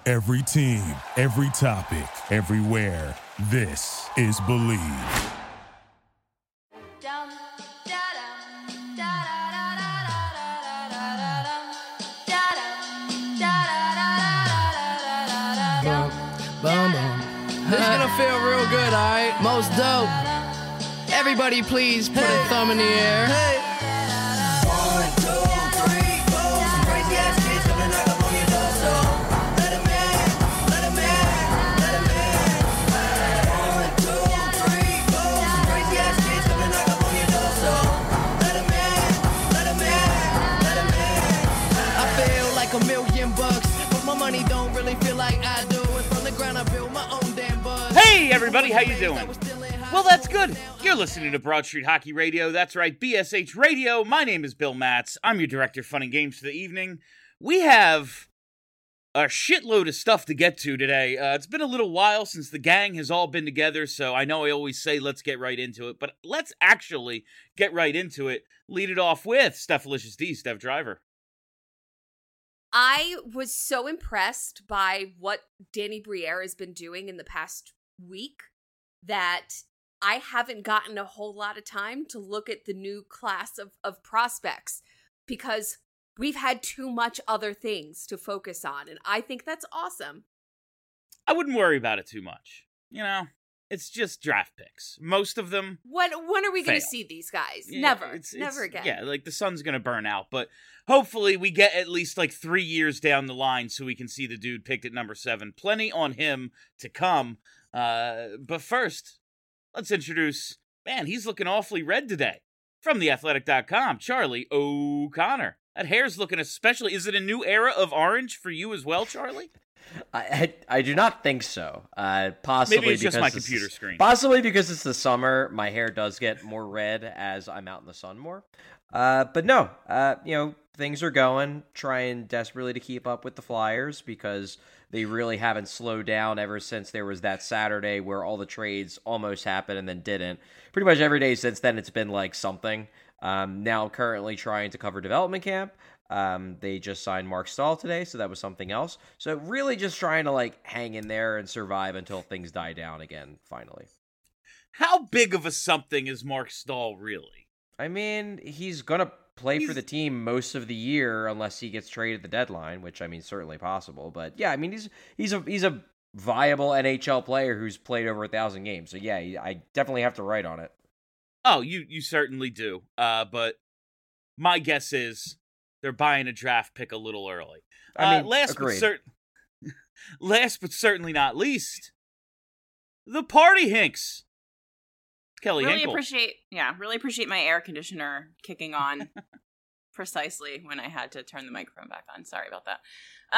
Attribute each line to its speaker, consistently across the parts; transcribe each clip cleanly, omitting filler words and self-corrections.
Speaker 1: Every team, every topic, everywhere. This is Believe.
Speaker 2: This is gonna feel real good, alright? Most dope. Everybody please put a thumb in the air.
Speaker 3: Hey. 1, 2, 3, 4. Some crazy ass kids coming knock up on your door, so let 'em in, let 'em in, let 'em in. 1, 2, 3, 4. Some crazy ass kids coming knock up on your door, so let 'em in, let 'em in, let 'em in.
Speaker 2: I feel like $1,000,000, but my money don't really feel like I do. And from the ground I build my own damn buzz.
Speaker 4: Hey everybody, how you doing? Well, that's good. You're listening to Broad Street Hockey Radio. That's right, BSH Radio. My name is Bill Matz. I'm your director of fun and games for the evening. We have a shitload of stuff to get to today. It's been a little while since the gang has all been together, so I know I always say let's get right into it, but let's actually get right into it. Lead it off with Stephalicious D, Steph Driver.
Speaker 5: I was so impressed by what Danny Briere has been doing in the past week that I haven't gotten a whole lot of time to look at the new class of prospects because we've had too much other things to focus on, and I think that's awesome.
Speaker 4: I wouldn't worry about it too much. You know, it's just draft picks. Most of them
Speaker 5: When are we going to
Speaker 4: fail.
Speaker 5: see these guys?
Speaker 4: Yeah,
Speaker 5: Never.
Speaker 4: it's
Speaker 5: Never again.
Speaker 4: Yeah, like the sun's going to burn out, but hopefully we get at least like 3 years down the line so we can see the dude picked at number 7. Plenty on him to come. But first, let's introduce, man, he's looking awfully red today. From theathletic.com, Charlie O'Connor. That hair's looking especially, is it a new era of orange for you as well, Charlie?
Speaker 6: I do not think so. Possibly
Speaker 4: Maybe it's just
Speaker 6: because
Speaker 4: my computer screen.
Speaker 6: Possibly because it's the summer, my hair does get more red as I'm out in the sun more. But no, things are going. Trying desperately to keep up with the Flyers because they really haven't slowed down ever since there was that Saturday where all the trades almost happened and then didn't. Pretty much every day since then, it's been like something. Now I'm currently trying to cover development camp. They just signed Mark Stahl today, so that was something else. So really just trying to like hang in there and survive until things die down again, finally.
Speaker 4: How big of a something is Mark Stahl really?
Speaker 6: I mean, he's going to play for the team most of the year unless he gets traded at the deadline, which I mean, certainly possible. But yeah, I mean, he's a viable NHL player who's played over 1,000 games. So yeah, I definitely have to write on it.
Speaker 4: Oh, you certainly do. But my guess is they're buying a draft pick a little early.
Speaker 6: I mean,
Speaker 4: last
Speaker 6: agreed.
Speaker 4: but certainly not least, the Party Hinks. Kelly
Speaker 7: really
Speaker 4: Hinkle.
Speaker 7: appreciate my air conditioner kicking on precisely when I had to turn the microphone back on. Sorry about that.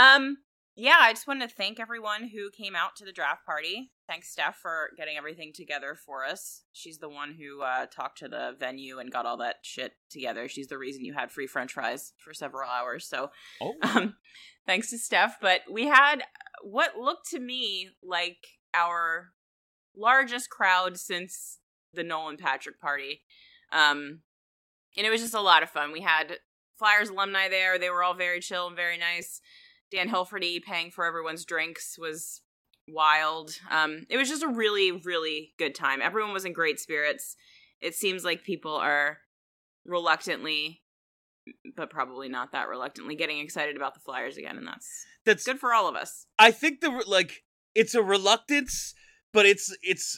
Speaker 7: I just wanted to thank everyone who came out to the draft party. Thanks, Steph, for getting everything together for us. She's the one who talked to the venue and got all that shit together. She's the reason you had free French fries for several hours. So, thanks to Steph. But we had what looked to me like our largest crowd since the Nolan Patrick party. And it was just a lot of fun. We had Flyers alumni there. They were all very chill and very nice. Dan Hilferty paying for everyone's drinks was wild. It was just a really, really good time. Everyone was in great spirits. It seems like people are reluctantly, but probably not that reluctantly, getting excited about the Flyers again, and that's good for all of us.
Speaker 4: I think it's a reluctance, but it's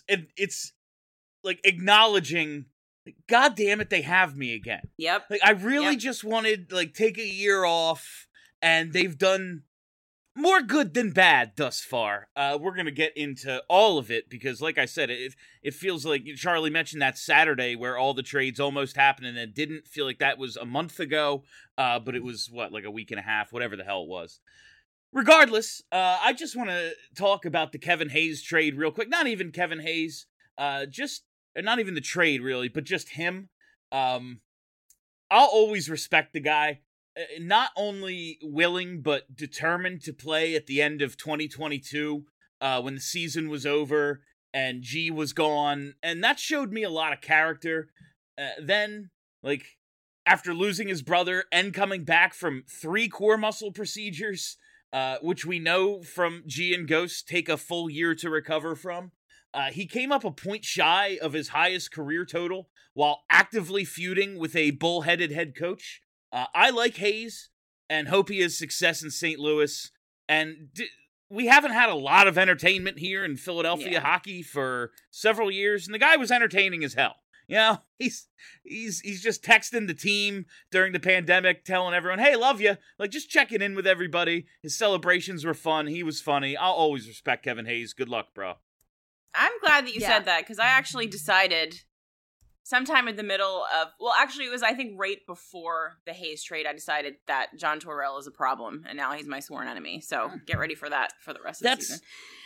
Speaker 4: like acknowledging, God damn it, they have me again.
Speaker 7: Yep.
Speaker 4: Like I really just wanted take a year off, and they've done more good than bad thus far. We're going to get into all of it because, like I said, it feels like Charlie mentioned that Saturday where all the trades almost happened, and it didn't feel like that was a month ago, but it was, like a week and a half, whatever the hell it was. Regardless, I just want to talk about the Kevin Hayes trade real quick. Not even Kevin Hayes, not even the trade, really, but just him. I'll always respect the guy. Not only willing, but determined to play at the end of 2022 when the season was over and G was gone. And that showed me a lot of character. Then, after losing his brother and coming back from 3 core muscle procedures, which we know from G and Ghost take a full year to recover from. He came up a point shy of his highest career total while actively feuding with a bullheaded head coach. I like Hayes and hope he has success in St. Louis. And we haven't had a lot of entertainment here in Philadelphia hockey for several years, and the guy was entertaining as hell. You know, he's just texting the team during the pandemic, telling everyone, "Hey, love you." Like, just checking in with everybody. His celebrations were fun. He was funny. I'll always respect Kevin Hayes. Good luck, bro.
Speaker 7: I'm glad that you said that, because I actually decided sometime in the middle of, well, actually it was, I think, right before the Hayes trade, I decided that John Tortorella is a problem, and now he's my sworn enemy. So get ready for that for the rest of the season.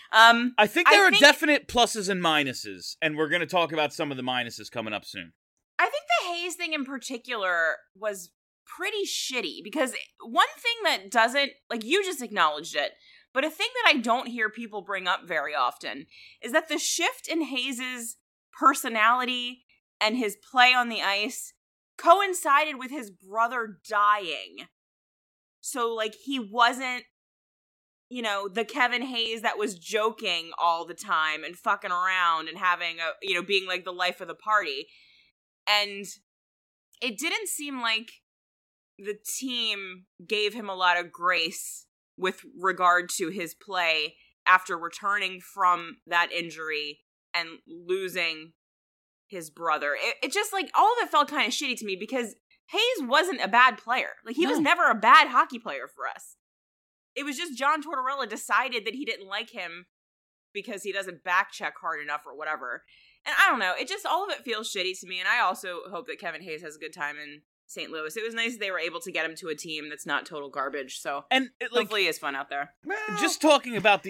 Speaker 4: I think there are definite pluses and minuses, and we're going to talk about some of the minuses coming up soon.
Speaker 7: I think the Hayes thing in particular was pretty shitty, because one thing that doesn't, like, you just acknowledged it, but a thing that I don't hear people bring up very often is that the shift in Hayes' personality and his play on the ice coincided with his brother dying. So, like, he wasn't, you know, the Kevin Hayes that was joking all the time and fucking around and having a, you know, being like the life of the party. And it didn't seem like the team gave him a lot of grace with regard to his play after returning from that injury and losing his brother. It just, like, all of it felt kind of shitty to me, because Hayes wasn't a bad player. Like, he was never a bad hockey player for us. It was just John Tortorella decided that he didn't like him because he doesn't back check hard enough or whatever. And I don't know, it just, all of it feels shitty to me, and I also hope that Kevin Hayes has a good time in St. Louis. It was nice that they were able to get him to a team that's not total garbage, so hopefully it's fun out there.
Speaker 4: Just talking about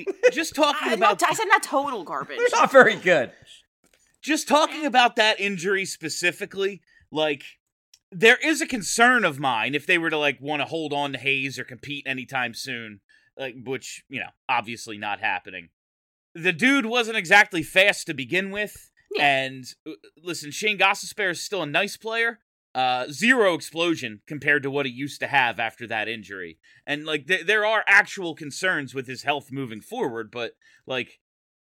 Speaker 7: I said not total garbage.
Speaker 6: Not very good.
Speaker 4: Just talking about that injury specifically, like, there is a concern of mine if they were to, like, want to hold on to Hayes or compete anytime soon, like, which, you know, obviously not happening. The dude wasn't exactly fast to begin with, and listen, Shane Gostisbehere is still a nice player. Zero explosion compared to what he used to have after that injury. And, like, there are actual concerns with his health moving forward, but, like,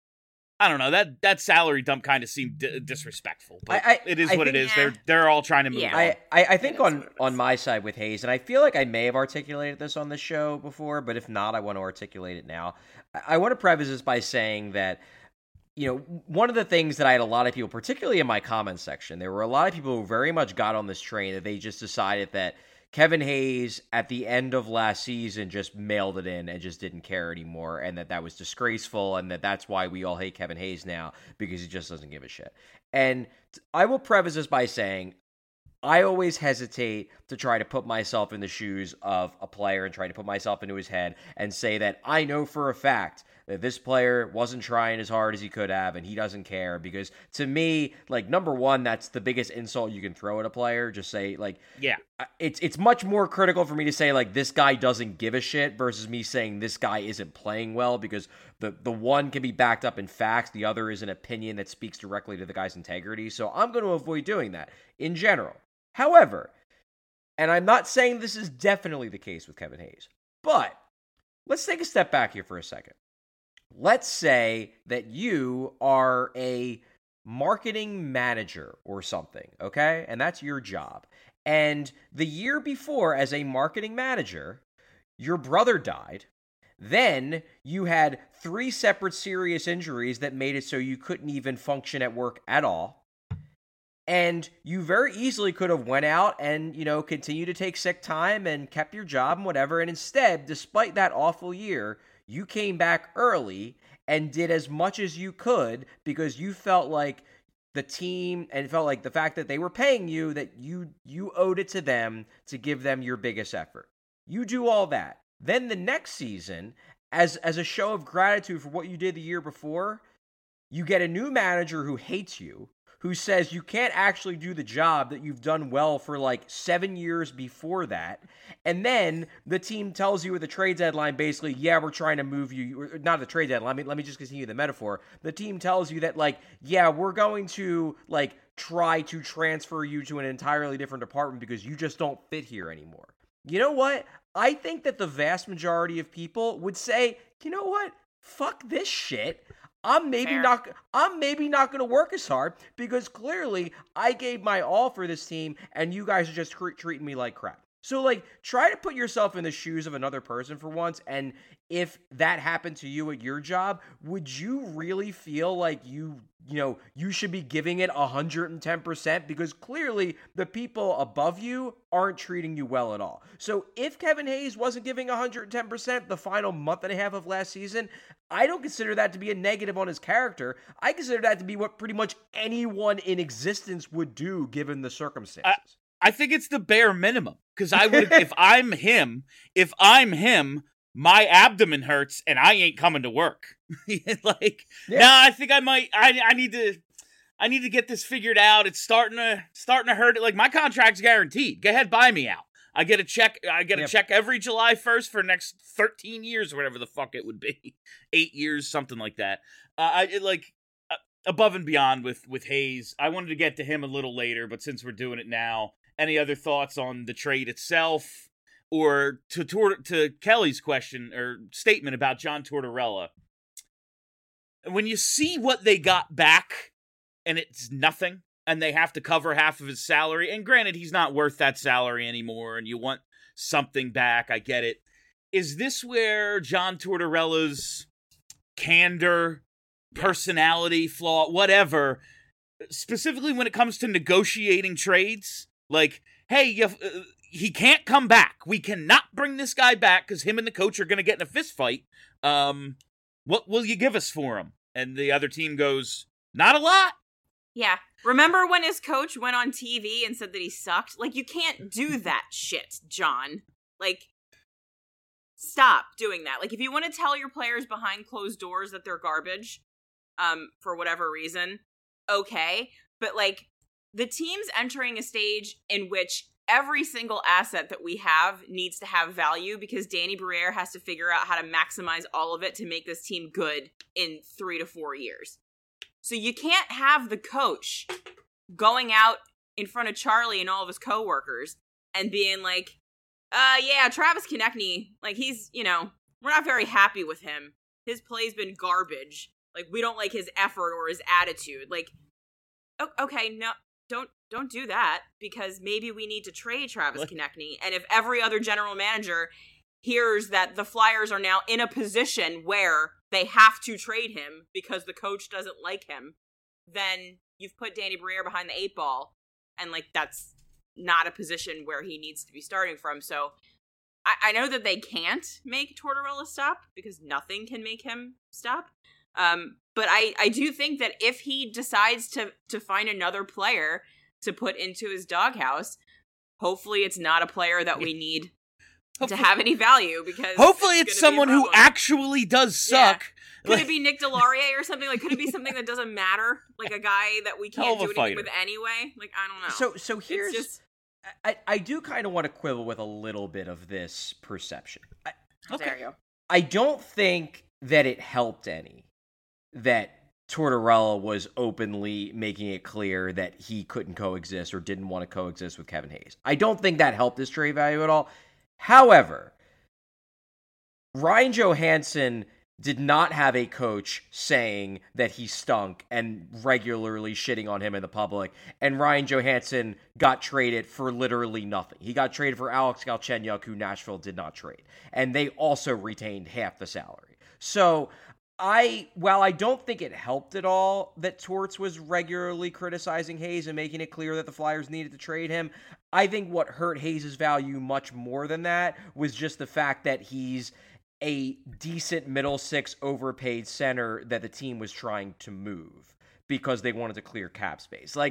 Speaker 4: I don't know, that salary dump kind of seemed disrespectful, but it is what it is. They're all trying to move on.
Speaker 6: I think on my side with Hayes, and I feel like I may have articulated this on the show before, but if not, I want to articulate it now. I want to preface this by saying that, you know, one of the things that I had a lot of people, particularly in my comments section, there were a lot of people who very much got on this train that they just decided that Kevin Hayes at the end of last season just mailed it in and just didn't care anymore, and that was disgraceful, and that's why we all hate Kevin Hayes now, because he just doesn't give a shit. And I will preface this by saying I always hesitate to try to put myself in the shoes of a player and try to put myself into his head and say that I know for a fact that this player wasn't trying as hard as he could have and he doesn't care, because to me, like, number one, that's the biggest insult you can throw at a player. Just say, like, it's much more critical for me to say, like, this guy doesn't give a shit versus me saying this guy isn't playing well, because the one can be backed up in facts, the other is an opinion that speaks directly to the guy's integrity. So I'm going to avoid doing that in general. However, and I'm not saying this is definitely the case with Kevin Hayes, but let's take a step back here for a second. Let's say that you are a marketing manager or something, okay? And that's your job. And the year before, as a marketing manager, your brother died. Then you had 3 separate serious injuries that made it so you couldn't even function at work at all. And you very easily could have went out and, you know, continued to take sick time and kept your job and whatever. And instead, despite that awful year, you came back early and did as much as you could because you felt like the team and felt like the fact that they were paying you, that you owed it to them to give them your biggest effort. You do all that. Then the next season, as a show of gratitude for what you did the year before, you get a new manager who hates you, who says you can't actually do the job that you've done well for like 7 years before that. And then the team tells you with the trade deadline, basically, yeah, we're trying to move you, or not the trade deadline, let me just continue the metaphor. The team tells you that, like, yeah, we're going to, like, try to transfer you to an entirely different department because you just don't fit here anymore. You know what? I think that the vast majority of people would say, you know what? Fuck this shit. I'm maybe
Speaker 7: Fair.
Speaker 6: not going to work as hard because clearly I gave my all for this team and you guys are just treating me like crap. So, like, try to put yourself in the shoes of another person for once, and if that happened to you at your job, would you really feel like you should be giving it 110%? Because clearly the people above you aren't treating you well at all. So if Kevin Hayes wasn't giving 110% the final month and a half of last season, I don't consider that to be a negative on his character. I consider that to be what pretty much anyone in existence would do given the circumstances.
Speaker 4: I think it's the bare minimum, because I would, if I'm him, my abdomen hurts and I ain't coming to work. I think I might. I need to get this figured out. It's starting to hurt. Like, my contract's guaranteed. Go ahead, buy me out. I get a check. I get a check every July 1st for the next 13 years, or whatever the fuck it would be, 8 years, something like that. Above and beyond with Hayes. I wanted to get to him a little later, but since we're doing it now. Any other thoughts on the trade itself, or to Kelly's question or statement about John Tortorella? When you see what they got back, and it's nothing, and they have to cover half of his salary, and granted, he's not worth that salary anymore, and you want something back, I get it. Is this where John Tortorella's candor, personality flaw, whatever, specifically when it comes to negotiating trades? Like, hey, he can't come back. We cannot bring this guy back because him and the coach are going to get in a fist fight. What will you give us for him? And the other team goes, not a lot.
Speaker 7: Yeah. Remember when his coach went on TV and said that he sucked? Like, you can't do that shit, John. Like, stop doing that. Like, if you want to tell your players behind closed doors that they're garbage, for whatever reason, okay. But, like, the team's entering a stage in which every single asset that we have needs to have value because Danny Briere has to figure out how to maximize all of it to make this team good in 3 to 4 years. So you can't have the coach going out in front of Charlie and all of his coworkers and being like, yeah, Travis Konechny, like, he's, we're not very happy with him. His play's been garbage. Like, we don't like his effort or his attitude. Like, okay, no. Don't do that, because maybe we need to trade Travis Konechny. And if every other general manager hears that the Flyers are now in a position where they have to trade him because the coach doesn't like him, then you've put Danny Briere behind the 8 ball, and, like, that's not a position where he needs to be starting from. So I know that they can't make Tortorella stop, because nothing can make him stop. But I do think that if he decides to find another player to put into his doghouse, hopefully it's not a player that we need to have any value, because
Speaker 4: hopefully it's someone who actually does suck.
Speaker 7: Yeah. Could it be Nick Deslauriers or something? Like, could it be something that doesn't matter? Like a guy that we can't do anything with anyway? Like, I don't know.
Speaker 6: So here's just... I do kind of want to quibble with a little bit of this perception.
Speaker 7: There you go.
Speaker 6: I don't think that it helped any that Tortorella was openly making it clear that he couldn't coexist or didn't want to coexist with Kevin Hayes. I don't think that helped his trade value at all. However, Ryan Johansson did not have a coach saying that he stunk and regularly shitting on him in the public, and Ryan Johansson got traded for literally nothing. He got traded for Alex Galchenyuk, who Nashville did not trade, and they also retained half the salary. So while I don't think it helped at all that Torts was regularly criticizing Hayes and making it clear that the Flyers needed to trade him, I think what hurt Hayes' value much more than that was just the fact that he's a decent middle six overpaid center that the team was trying to move because they wanted to clear cap space. Like,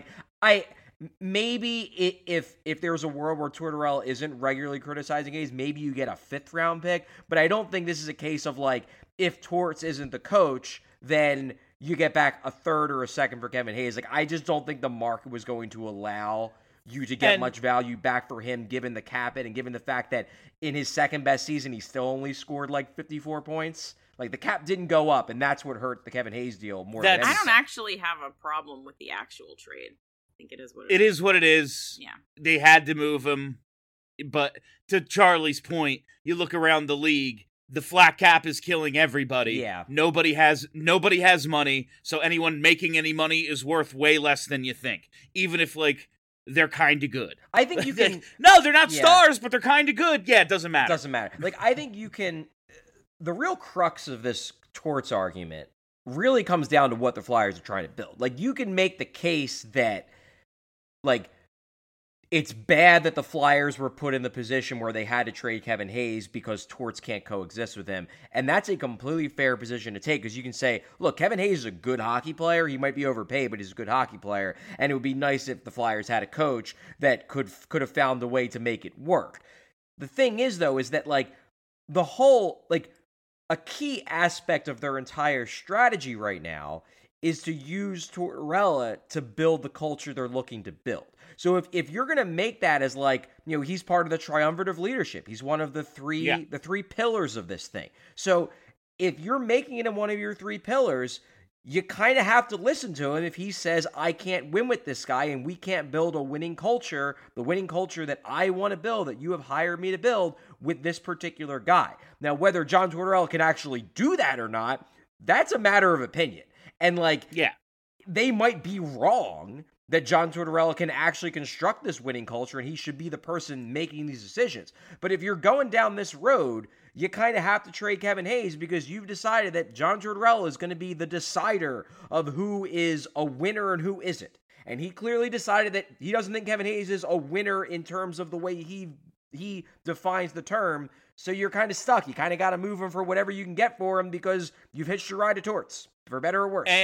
Speaker 6: maybe if there was a world where Tortorella isn't regularly criticizing Hayes, maybe you get a 5th round pick, but I don't think this is a case of, like, if Torts isn't the coach, then you get back a 3rd or a 2nd for Kevin Hayes. Like, I just don't think the market was going to allow you to get much value back for him, given the cap hit and given the fact that in his 2nd best season, he still only scored like 54 points. Like, the cap didn't go up, and that's what hurt the Kevin Hayes deal more than anything.
Speaker 7: I don't actually have a problem with the actual trade. I think it is what it is.
Speaker 4: It is what it is.
Speaker 7: Yeah.
Speaker 4: They had to move him. but to Charlie's point, you look around the league, the flat cap is killing everybody.
Speaker 6: Yeah.
Speaker 4: Nobody has money, so anyone making any money is worth way less than you think, even if like they're kind of good.
Speaker 6: I think you can.
Speaker 4: No, they're not
Speaker 6: Yeah.
Speaker 4: stars, but they're kind of good. Yeah, it doesn't matter.
Speaker 6: Doesn't matter. Like, I think you can. The real crux of this torts argument really comes down to what the Flyers are trying to build. Like, you can make the case that, like, it's bad that the Flyers were put in the position where they had to trade Kevin Hayes because torts can't coexist with him. And that's a completely fair position to take, because you can say, look, Kevin Hayes is a good hockey player. He might be overpaid, but he's a good hockey player. And it would be nice if the Flyers had a coach that could have found a way to make it work. The thing is, though, is that, like, the whole, like, a key aspect of their entire strategy right now is to use Tortorella to build the culture they're looking to build. So if you're going to make that as, like, you know, he's part of the triumvirate of leadership. He's one of the three pillars of this thing. So if you're making it in one of your three pillars, you kind of have to listen to him if he says, I can't win with this guy and we can't build a winning culture, the winning culture that I want to build, that you have hired me to build with this particular guy. Now, whether John Tortorella can actually do that or not, that's a matter of opinion. And, like, they might be wrong that John Tortorella can actually construct this winning culture and he should be the person making these decisions. But if you're going down this road, you kind of have to trade Kevin Hayes because you've decided that John Tortorella is going to be the decider of who is a winner and who isn't. And he clearly decided that he doesn't think Kevin Hayes is a winner in terms of the way he defines the term. So you're kind of stuck. You kind of got to move him for whatever you can get for him because you've hitched your ride to torts, for better or worse.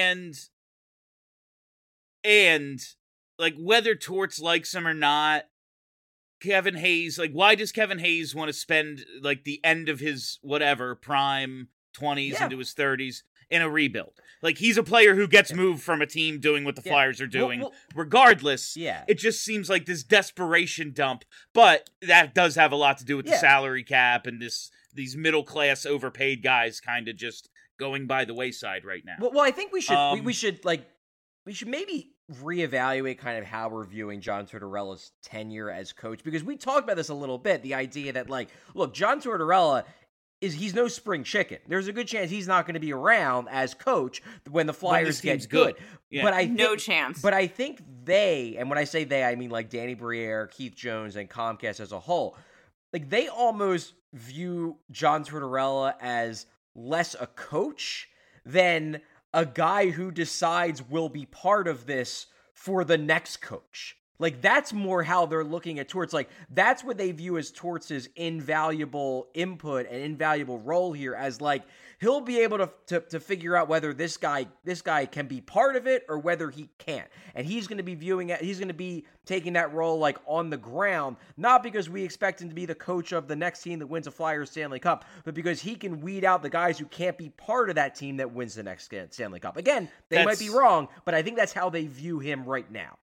Speaker 4: And like, whether Torts likes him or not, Kevin Hayes, like, why does Kevin Hayes want to spend, like, the end of his, whatever, prime 20s into his 30s in a rebuild? Like, he's a player who gets moved from a team doing what the Flyers are doing. Regardless, it just seems like this desperation dump. But that does have a lot to do with the salary cap and these middle-class overpaid guys kind of just going by the wayside right now.
Speaker 6: Well, I think we should maybe reevaluate kind of how we're viewing John Tortorella's tenure as coach, because we talked about this a little bit, the idea that, like, look, John Tortorella he's no spring chicken. There's a good chance he's not going to be around as coach when the Flyers get good.
Speaker 4: Yeah.
Speaker 6: But
Speaker 7: no chance.
Speaker 6: But I think they, and when I say they, I mean like Danny Briere, Keith Jones, and Comcast as a whole, like, they almost view John Tortorella as less a coach than a guy who decides will be part of this for the next coach. Like, that's more how they're looking at Torts. Like, that's what they view as Torts' invaluable input and invaluable role here, as, like, he'll be able to figure out whether this guy can be part of it or whether he can't. And he's going to be viewing it, he's going to be taking that role, like, on the ground, not because we expect him to be the coach of the next team that wins a Flyers Stanley Cup, but because he can weed out the guys who can't be part of that team that wins the next Stanley Cup. Again, they might be wrong, but I think that's how they view him right now.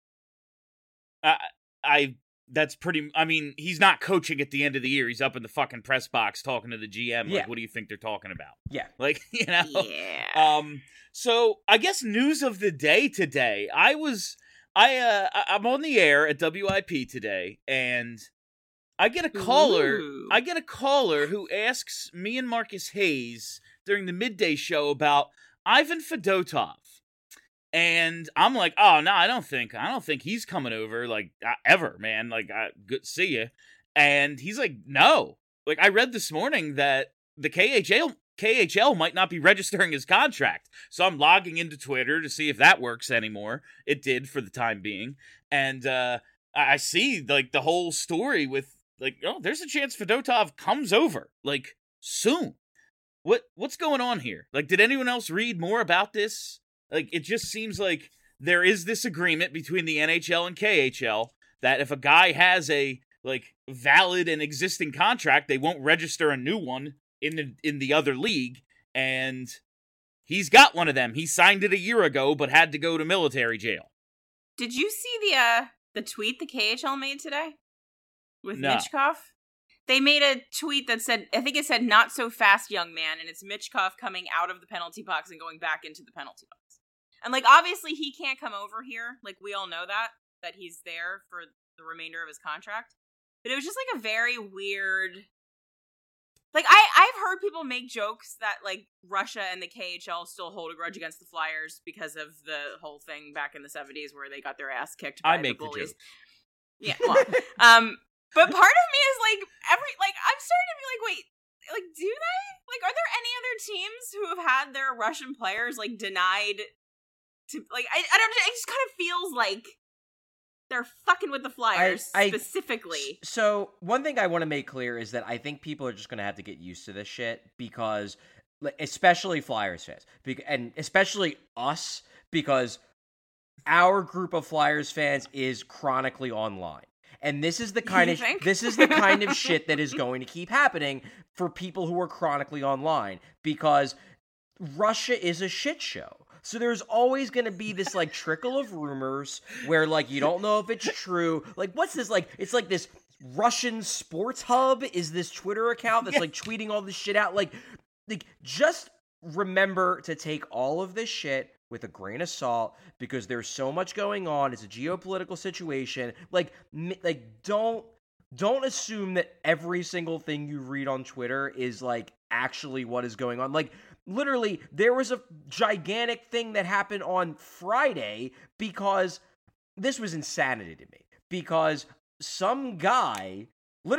Speaker 4: I mean, he's not coaching at the end of the year. He's up in the fucking press box talking to the GM. Like, what do you think they're talking about?
Speaker 6: Yeah.
Speaker 4: Like, you know?
Speaker 7: Yeah.
Speaker 4: So I guess news of the day today. I'm on the air at WIP today, and I get a caller.
Speaker 7: Ooh.
Speaker 4: I get a caller who asks me and Marcus Hayes during the midday show about Ivan Fedotov. And I'm like, oh, no, I don't think he's coming over, like, ever, man. Like, good to see you. And he's like, no. Like, I read this morning that the KHL might not be registering his contract. So I'm logging into Twitter to see if that works anymore. It did for the time being. And I see, like, the whole story with, like, oh, there's a chance Fedotov comes over, like, soon. What's going on here? Like, did anyone else read more about this? Like, it just seems like there is this agreement between the NHL and KHL that if a guy has a, like, valid and existing contract, they won't register a new one in the other league, and he's got one of them. He signed it a year ago, but had to go to military jail.
Speaker 7: Did you see the tweet the KHL made today with Michkov? They made a tweet that said, I think it said, "Not so fast, young man," and it's Michkov coming out of the penalty box and going back into the penalty box. And, like, obviously he can't come over here. Like, we all know that he's there for the remainder of his contract. But it was just like a very weird. Like I've heard people make jokes that like Russia and the KHL still hold a grudge against the Flyers because of the whole thing back in the 70s where they got their ass kicked by
Speaker 4: I
Speaker 7: the
Speaker 4: make the
Speaker 7: bullies.
Speaker 4: joke.
Speaker 7: Yeah, well, but part of me is like I'm starting to be like, wait, like do they? Like, are there any other teams who have had their Russian players like denied to like I don't, it just kind of feels like they're fucking with the Flyers specifically.
Speaker 6: So one thing I want to make clear is that I think people are just going to have to get used to this shit because, especially Flyers fans, and especially us, because our group of Flyers fans is chronically online. And this is the kind of shit that is going to keep happening for people who are chronically online because Russia is a shit show. So there's always going to be this like trickle of rumors where like you don't know if it's true. Like what's this like? It's like this Russian sports hub is this Twitter account that's like tweeting all this shit out. Like just remember to take all of this shit with a grain of salt because there's so much going on. It's a geopolitical situation. Like don't assume that every single thing you read on Twitter is like actually what is going on. Like literally, there was a gigantic thing that happened on Friday because this was insanity to me. Because some guy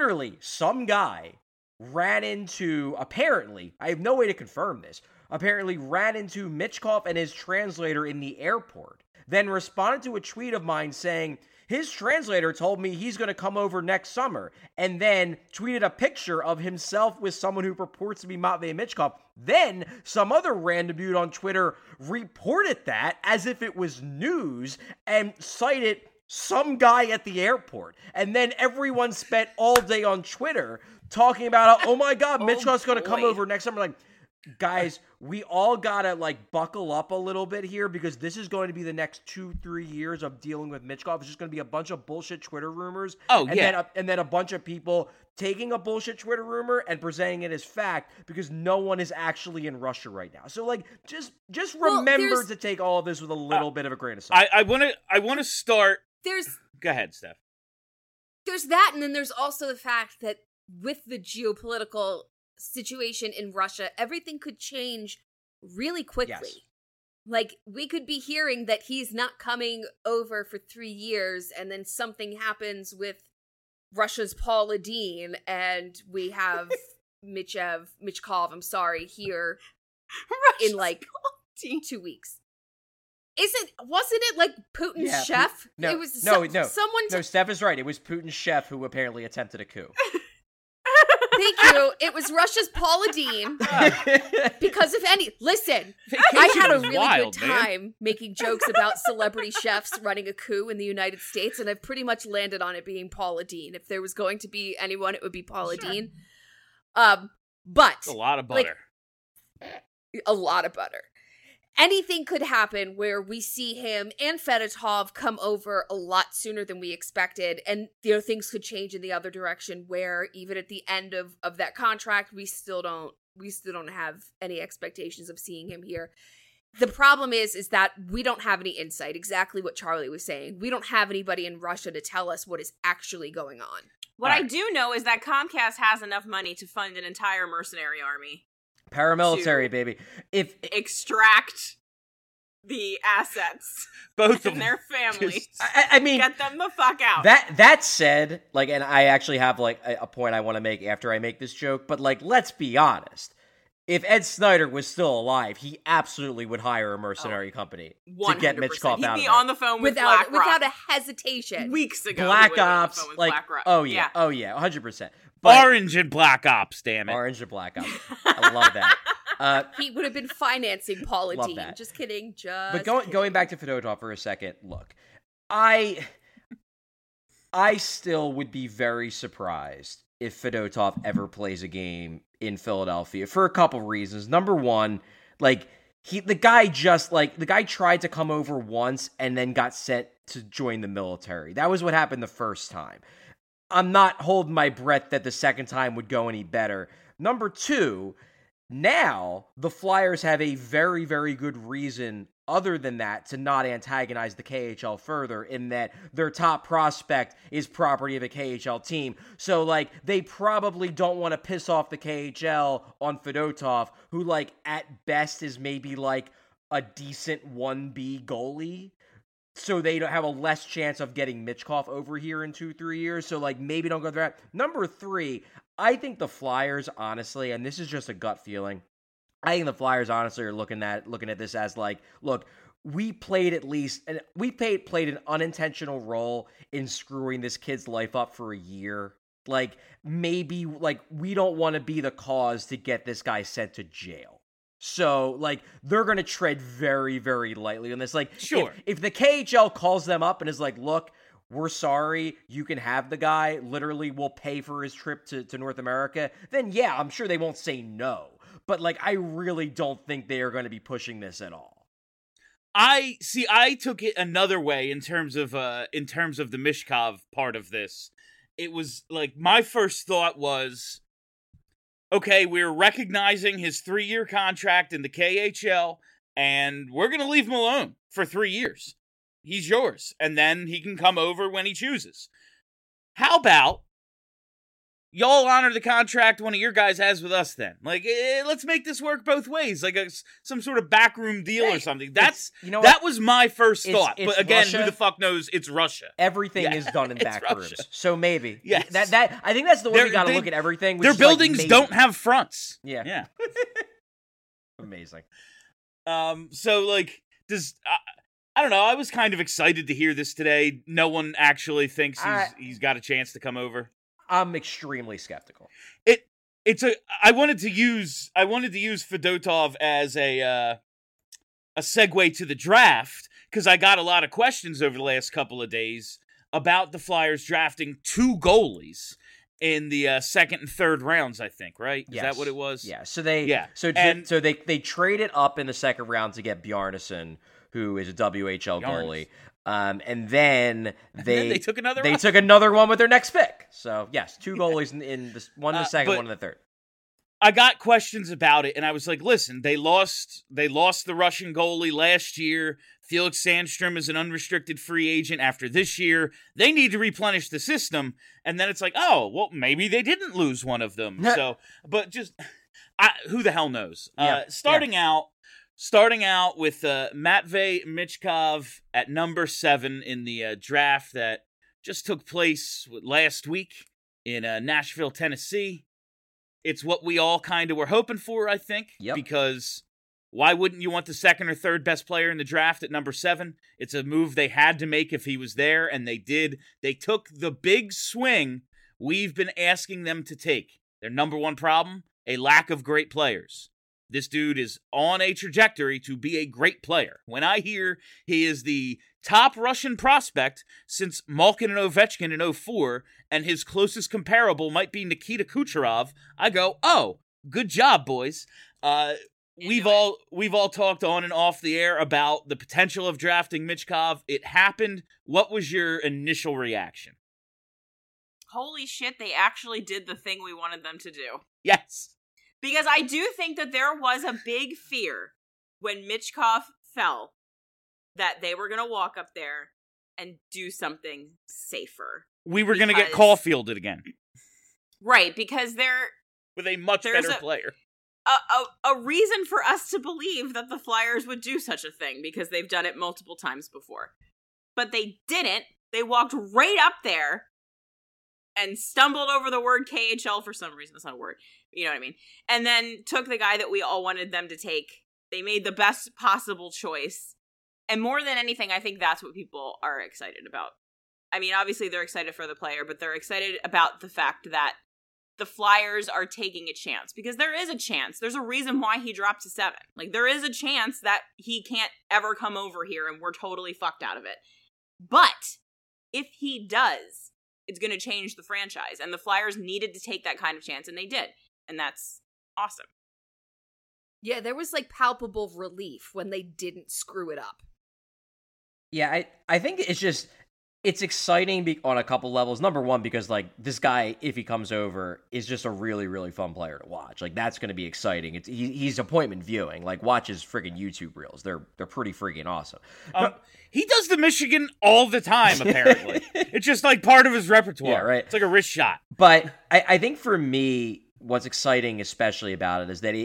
Speaker 6: ran into, apparently, I have no way to confirm this, apparently ran into Michkov and his translator in the airport, then responded to a tweet of mine saying, his translator told me he's going to come over next summer, and then tweeted a picture of himself with someone who purports to be Matvei Michkov. Then some other random dude on Twitter reported that as if it was news and cited some guy at the airport. And then everyone spent all day on Twitter talking about how, oh my God, Michkov's going to come over next summer. Like, guys, we all gotta like buckle up a little bit here because this is going to be the next 2-3 years of dealing with Michkov. It's just going to be a bunch of bullshit Twitter rumors. And then a bunch of people taking a bullshit Twitter rumor and presenting it as fact because no one is actually in Russia right now. So like, just remember to take all of this with a little bit of a grain of salt.
Speaker 4: I want to start. Go ahead, Steph.
Speaker 5: There's that, and then there's also the fact that with the geopolitical situation in Russia, everything could change really quickly. Yes. Like, we could be hearing that he's not coming over for 3 years, and then something happens with Russia's Paul Ladin, and we have Michkov, here in like 2 weeks. Wasn't it like Putin's chef?
Speaker 6: No,
Speaker 5: it was
Speaker 6: no.
Speaker 5: Someone
Speaker 6: Steph is right. It was Putin's chef who apparently attempted a coup.
Speaker 5: Thank you. It was Russia's Paul Ladin. Because listen, I had a really good time making jokes about celebrity chefs running a coup in the United States, and I've pretty much landed on it being Paul Ladin. If there was going to be anyone, it would be Paul Ladin. But
Speaker 4: a lot of butter.
Speaker 5: A lot of butter. Anything could happen where we see him and Fedotov come over a lot sooner than we expected, and things could change in the other direction where even at the end of that contract, we still don't have any expectations of seeing him here. The problem is that we don't have any insight, exactly what Charlie was saying. We don't have anybody in Russia to tell us what is actually going on.
Speaker 7: What I do know is that Comcast has enough money to fund an entire mercenary army.
Speaker 6: Paramilitary, baby. If
Speaker 7: extract the assets,
Speaker 4: both
Speaker 7: of their families.
Speaker 6: I mean,
Speaker 7: get them the fuck out.
Speaker 6: That said, like, and I actually have like a point I want to make after I make this joke, but like, let's be honest. If Ed Snyder was still alive, he absolutely would hire a mercenary company
Speaker 7: 100%.
Speaker 6: to get Michkov out of there.
Speaker 7: He'd be on the phone with BlackRock
Speaker 5: without a hesitation.
Speaker 7: Weeks ago,
Speaker 6: Black Ops, like,
Speaker 7: BlackRock.
Speaker 6: oh yeah, 100%.
Speaker 4: Orange and Black Ops, damn it.
Speaker 6: Orange and Black Ops. I love that.
Speaker 5: He would have been financing Paul Ladin. Just kidding.
Speaker 6: But going back to Fedotov for a second, look, I still would be very surprised if Fedotov ever plays a game in Philadelphia for a couple reasons. Number one, like the guy tried to come over once and then got sent to join the military. That was what happened the first time. I'm not holding my breath that the second time would go any better. Number two, Now, the Flyers have a very, very good reason other than that to not antagonize the KHL further, in that their top prospect is property of a KHL team. So, like, they probably don't want to piss off the KHL on Fedotov, who, like, at best is maybe, like, a decent 1B goalie. So they don't have a less chance of getting Michkov over here in 2-3 years. So, like, maybe don't go through that. Number 3, I think the Flyers, honestly, and this is just a gut feeling, I think the Flyers, honestly, are looking at this as, like, look, we played an unintentional role in screwing this kid's life up for a year. Like, maybe, like, we don't want to be the cause to get this guy sent to jail. So, like, they're going to tread very, very lightly on this. Like,
Speaker 4: sure.
Speaker 6: If the KHL calls them up and is like, look, we're sorry, you can have the guy, literally we'll pay for his trip to North America, then yeah, I'm sure they won't say no. But, like, I really don't think they are going to be pushing this at all.
Speaker 4: I took it another way in terms of the Michkov part of this. It was, like, my first thought was, okay, we're recognizing his 3-year contract in the KHL, and we're going to leave him alone for 3 years. He's yours, and then he can come over when he chooses. How about y'all honor the contract one of your guys has with us then? Like, let's make this work both ways, like some sort of backroom deal or something. That was my first thought. But again, Russia. Who the fuck knows? It's Russia.
Speaker 6: Everything is done in back rooms. So maybe.
Speaker 4: Yes.
Speaker 6: That I think that's the way we got to look at everything.
Speaker 4: Their buildings don't have fronts.
Speaker 6: Yeah. Amazing.
Speaker 4: So, like, I don't know. I was kind of excited to hear this today. No one actually thinks he's got a chance to come over.
Speaker 6: I'm extremely skeptical.
Speaker 4: I wanted to use Fedotov as a segue to the draft, because I got a lot of questions over the last couple of days about the Flyers drafting 2 goalies in the second and third rounds, I think, right? Is that what it was?
Speaker 6: Yeah. So they traded up in the second round to get Bjarnason, who is a WHL goalie. And then they took another one with their next pick. So yes, 2 goalies in this, one in the second, one in the third.
Speaker 4: I got questions about it, and I was like, listen, they lost the Russian goalie last year. Felix Sandstrom is an unrestricted free agent after this year. They need to replenish the system. And then it's like, oh, well, maybe they didn't lose one of them. So, but just who the hell knows? Starting out with Matvei Michkov at number 7 in the draft that just took place last week in Nashville, Tennessee. It's what we all kind of were hoping for, I think, because why wouldn't you want the second or third best player in the draft at number 7? It's a move they had to make if he was there, and they did. They took the big swing we've been asking them to take. Their number 1 problem, a lack of great players. This dude is on a trajectory to be a great player. When I hear he is the top Russian prospect since Malkin and Ovechkin in 2004, and his closest comparable might be Nikita Kucherov, I go, oh, good job, boys. We've all talked on and off the air about the potential of drafting Michkov. It happened. What was your initial reaction?
Speaker 7: Holy shit, they actually did the thing we wanted them to do.
Speaker 4: Yes.
Speaker 7: Because I do think that there was a big fear when Michkov fell that they were going to walk up there and do something safer.
Speaker 4: We were going to get Caulfielded again.
Speaker 7: Right, because
Speaker 4: with a much better player.
Speaker 7: A reason for us to believe that the Flyers would do such a thing, because they've done it multiple times before. But they didn't. They walked right up there and stumbled over the word KHL for some reason. That's not a word. You know what I mean? And then took the guy that we all wanted them to take. They made the best possible choice. And more than anything, I think that's what people are excited about. I mean, obviously they're excited for the player, but they're excited about the fact that the Flyers are taking a chance. Because there is a chance. There's a reason why he dropped to 7. Like, there is a chance that he can't ever come over here and we're totally fucked out of it. But if he does, it's going to change the franchise. And the Flyers needed to take that kind of chance, and they did. And that's awesome.
Speaker 5: Yeah, there was, like, palpable relief when they didn't screw it up.
Speaker 6: Yeah, I think it's just, It's exciting on a couple levels. Number one, because like this guy, if he comes over, is just a really, really fun player to watch. Like that's going to be exciting. He's appointment viewing. Like watch his freaking YouTube reels. They're pretty freaking awesome.
Speaker 4: He does the Michigan all the time. Apparently, it's just like part of his repertoire.
Speaker 6: Yeah, right.
Speaker 4: It's like a wrist shot.
Speaker 6: But I think for me, what's exciting, especially about it, is that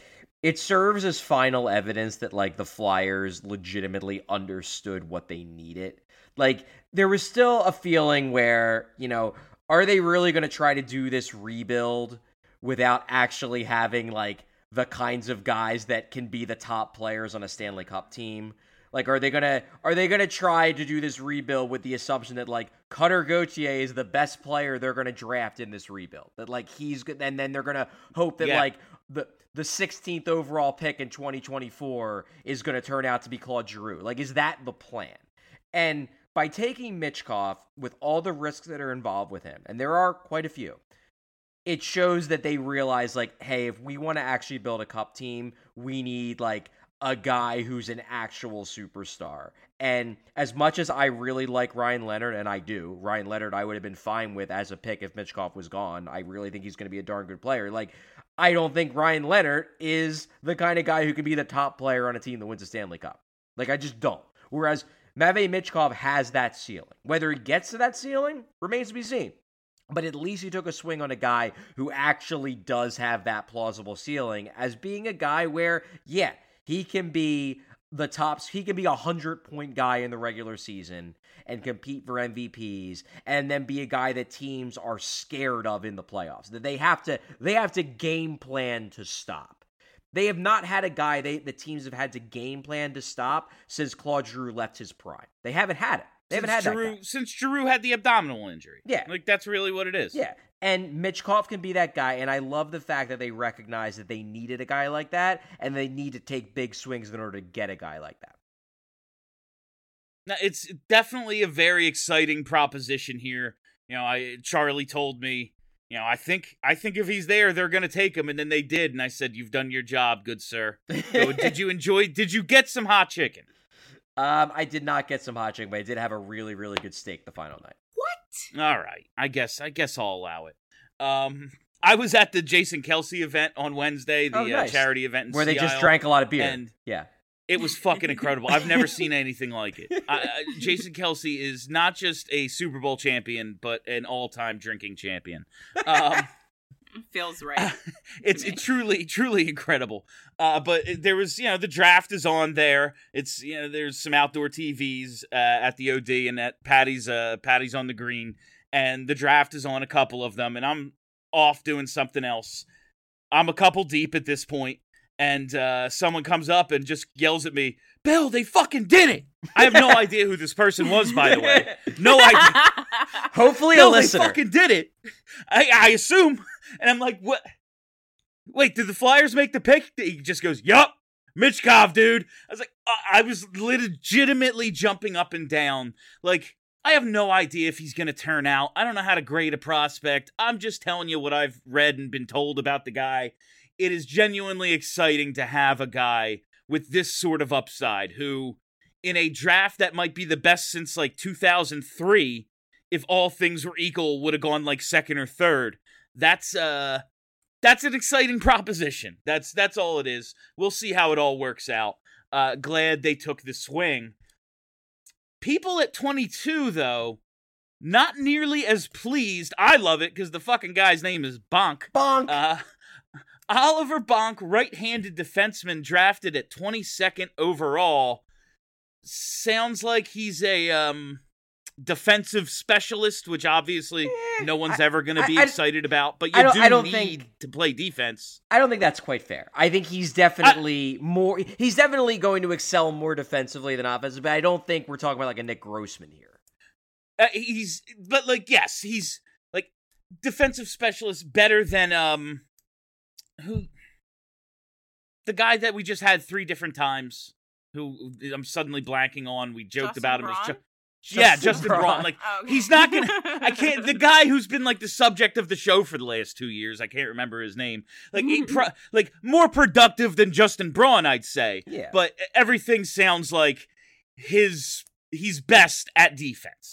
Speaker 6: it serves as final evidence that like the Flyers legitimately understood what they needed. Like, there was still a feeling where, are they really going to try to do this rebuild without actually having, like, the kinds of guys that can be the top players on a Stanley Cup team? Like, are they gonna try to do this rebuild with the assumption that, like, Cutter Gauthier is the best player they're going to draft in this rebuild? That, like, he's good, and then they're going to hope that, like, the 16th overall pick in 2024 is going to turn out to be Claude Giroux. Like, is that the plan? And by taking Michkov, with all the risks that are involved with him, and there are quite a few, it shows that they realize, like, hey, if we want to actually build a cup team, we need, like, a guy who's an actual superstar. And as much as I really like Ryan Leonard, and I do, Ryan Leonard I would have been fine with as a pick if Michkov was gone. I really think he's going to be a darn good player. Like, I don't think Ryan Leonard is the kind of guy who can be the top player on a team that wins a Stanley Cup. Like, I just don't. Whereas Matvei Michkov has that ceiling. Whether he gets to that ceiling remains to be seen. But at least he took a swing on a guy who actually does have that plausible ceiling as being a guy where, yeah, he can be the tops. He can be 100-point guy in the regular season and compete for MVPs, and then be a guy that teams are scared of in the playoffs. That they have to game plan to stop. They have not had a guy the teams have had to game plan to stop since Claude Giroux left his prime. They haven't had it. They haven't had that guy.
Speaker 4: Since Giroux had the abdominal injury.
Speaker 6: Yeah.
Speaker 4: Like, that's really what it is.
Speaker 6: Yeah. And Michkov can be that guy, and I love the fact that they recognize that they needed a guy like that, and they need to take big swings in order to get a guy like that.
Speaker 4: Now, it's definitely a very exciting proposition here. Charlie told me, I think if he's there, they're going to take him, and then they did, and I said, you've done your job, good sir. So, did you get some hot chicken?
Speaker 6: I did not get some hot chicken, but I did have a really, really good steak the final night.
Speaker 4: All right. I guess I'll allow it. I was at the Jason Kelsey event on Wednesday, the
Speaker 6: nice.
Speaker 4: Charity event in
Speaker 6: where they
Speaker 4: Sea
Speaker 6: just
Speaker 4: Isle,
Speaker 6: drank a lot of beer.
Speaker 4: and
Speaker 6: yeah.
Speaker 4: It was fucking incredible. I've never seen anything like it. Jason Kelsey is not just a Super Bowl champion, but an all-time drinking champion.
Speaker 7: Feels right.
Speaker 4: It's truly, truly incredible. But there was, the draft is on there. It's, there's some outdoor TVs at the OD and at Patty's on the green, and the draft is on a couple of them, and I'm off doing something else. I'm a couple deep at this point, and someone comes up and just yells at me, "Bill, they fucking did it!" I have no idea who this person was, by the way. No idea.
Speaker 6: Hopefully
Speaker 4: Bill,
Speaker 6: a listener.
Speaker 4: they fucking did it. I assume. And I'm like, what? Wait, did the Flyers make the pick? He just goes, yup, Michkov, dude. I was like, I was legitimately jumping up and down. Like, I have no idea if he's going to turn out. I don't know how to grade a prospect. I'm just telling you what I've read and been told about the guy. It is genuinely exciting to have a guy with this sort of upside who, in a draft that might be the best since like 2003, if all things were equal, would have gone like second or third. That's an exciting proposition. That's all it is. We'll see how it all works out. Glad they took the swing. People at 22, though, not nearly as pleased. I love it because the fucking guy's name is Bonk.
Speaker 6: Bonk.
Speaker 4: Oliver Bonk, right-handed defenseman, drafted at 22nd overall. Sounds like he's a defensive specialist, which obviously no one's ever going to be excited about, but you do need to play defense.
Speaker 6: I don't think that's quite fair. I think he's definitely he's definitely going to excel more defensively than offensively, but I don't think we're talking about like a Nick Grossman here.
Speaker 4: He's like defensive specialist better than who, the guy that we just had 3 different times, who I'm suddenly blanking on. We joked
Speaker 7: Justin
Speaker 4: about
Speaker 7: Braun?
Speaker 4: him. Justin Braun. Like, he's not gonna. I can't. The guy who's been like the subject of the show for the last 2 years. I can't remember his name. Like, like more productive than Justin Braun, I'd say.
Speaker 6: Yeah.
Speaker 4: But everything sounds like he's best at defense.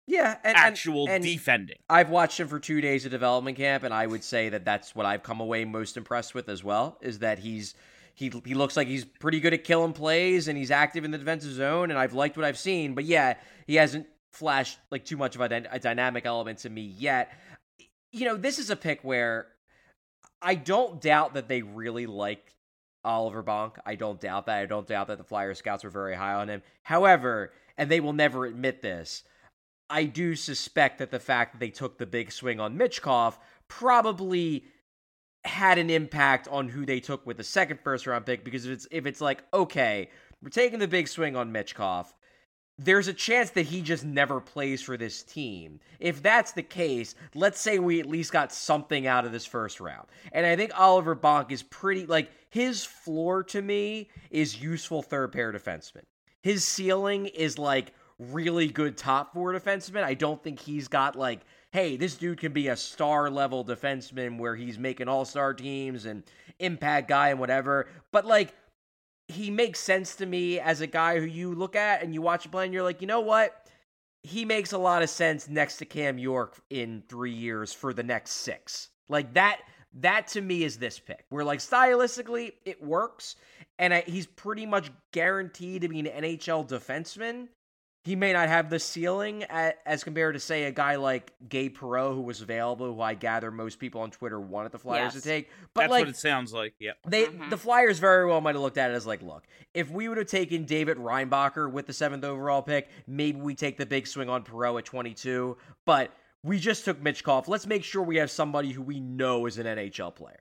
Speaker 6: Yeah,
Speaker 4: actual
Speaker 6: and
Speaker 4: defending.
Speaker 6: I've watched him for 2 days of development camp, and I would say that that's what I've come away most impressed with as well, is that he looks like he's pretty good at killing plays, and he's active in the defensive zone, and I've liked what I've seen. But yeah, he hasn't flashed like too much of a dynamic element to me yet. This is a pick where I don't doubt that they really like Oliver Bonk. I don't doubt that. I don't doubt that the Flyers scouts were very high on him. However, and they will never admit this, I do suspect that the fact that they took the big swing on Michkov probably had an impact on who they took with the second first-round pick, because if it's like, okay, we're taking the big swing on Michkov, there's a chance that he just never plays for this team. If that's the case, let's say we at least got something out of this first round. And I think Oliver Bonk is pretty, like, his floor to me is useful third-pair defenseman. His ceiling is, like, really good top four defenseman. I don't think he's got, like, hey, this dude can be a star-level defenseman where he's making all-star teams and impact guy and whatever. But, like, he makes sense to me as a guy who you look at and you watch him play and you're like, you know what? He makes a lot of sense next to Cam York in 3 years for the next 6. Like, that to me is this pick. Where, like, stylistically, it works. And he's pretty much guaranteed to be an NHL defenseman. He may not have the ceiling as compared to, say, a guy like Gabe Perreault, who was available, who I gather most people on Twitter wanted the Flyers to take. But
Speaker 4: that's
Speaker 6: like,
Speaker 4: what it sounds like, yeah.
Speaker 6: The Flyers very well might have looked at it as like, look, if we would have taken David Reinbacher with the 7th overall pick, maybe we take the big swing on Perreault at 22. But we just took Michkov. Let's make sure we have somebody who we know is an NHL player.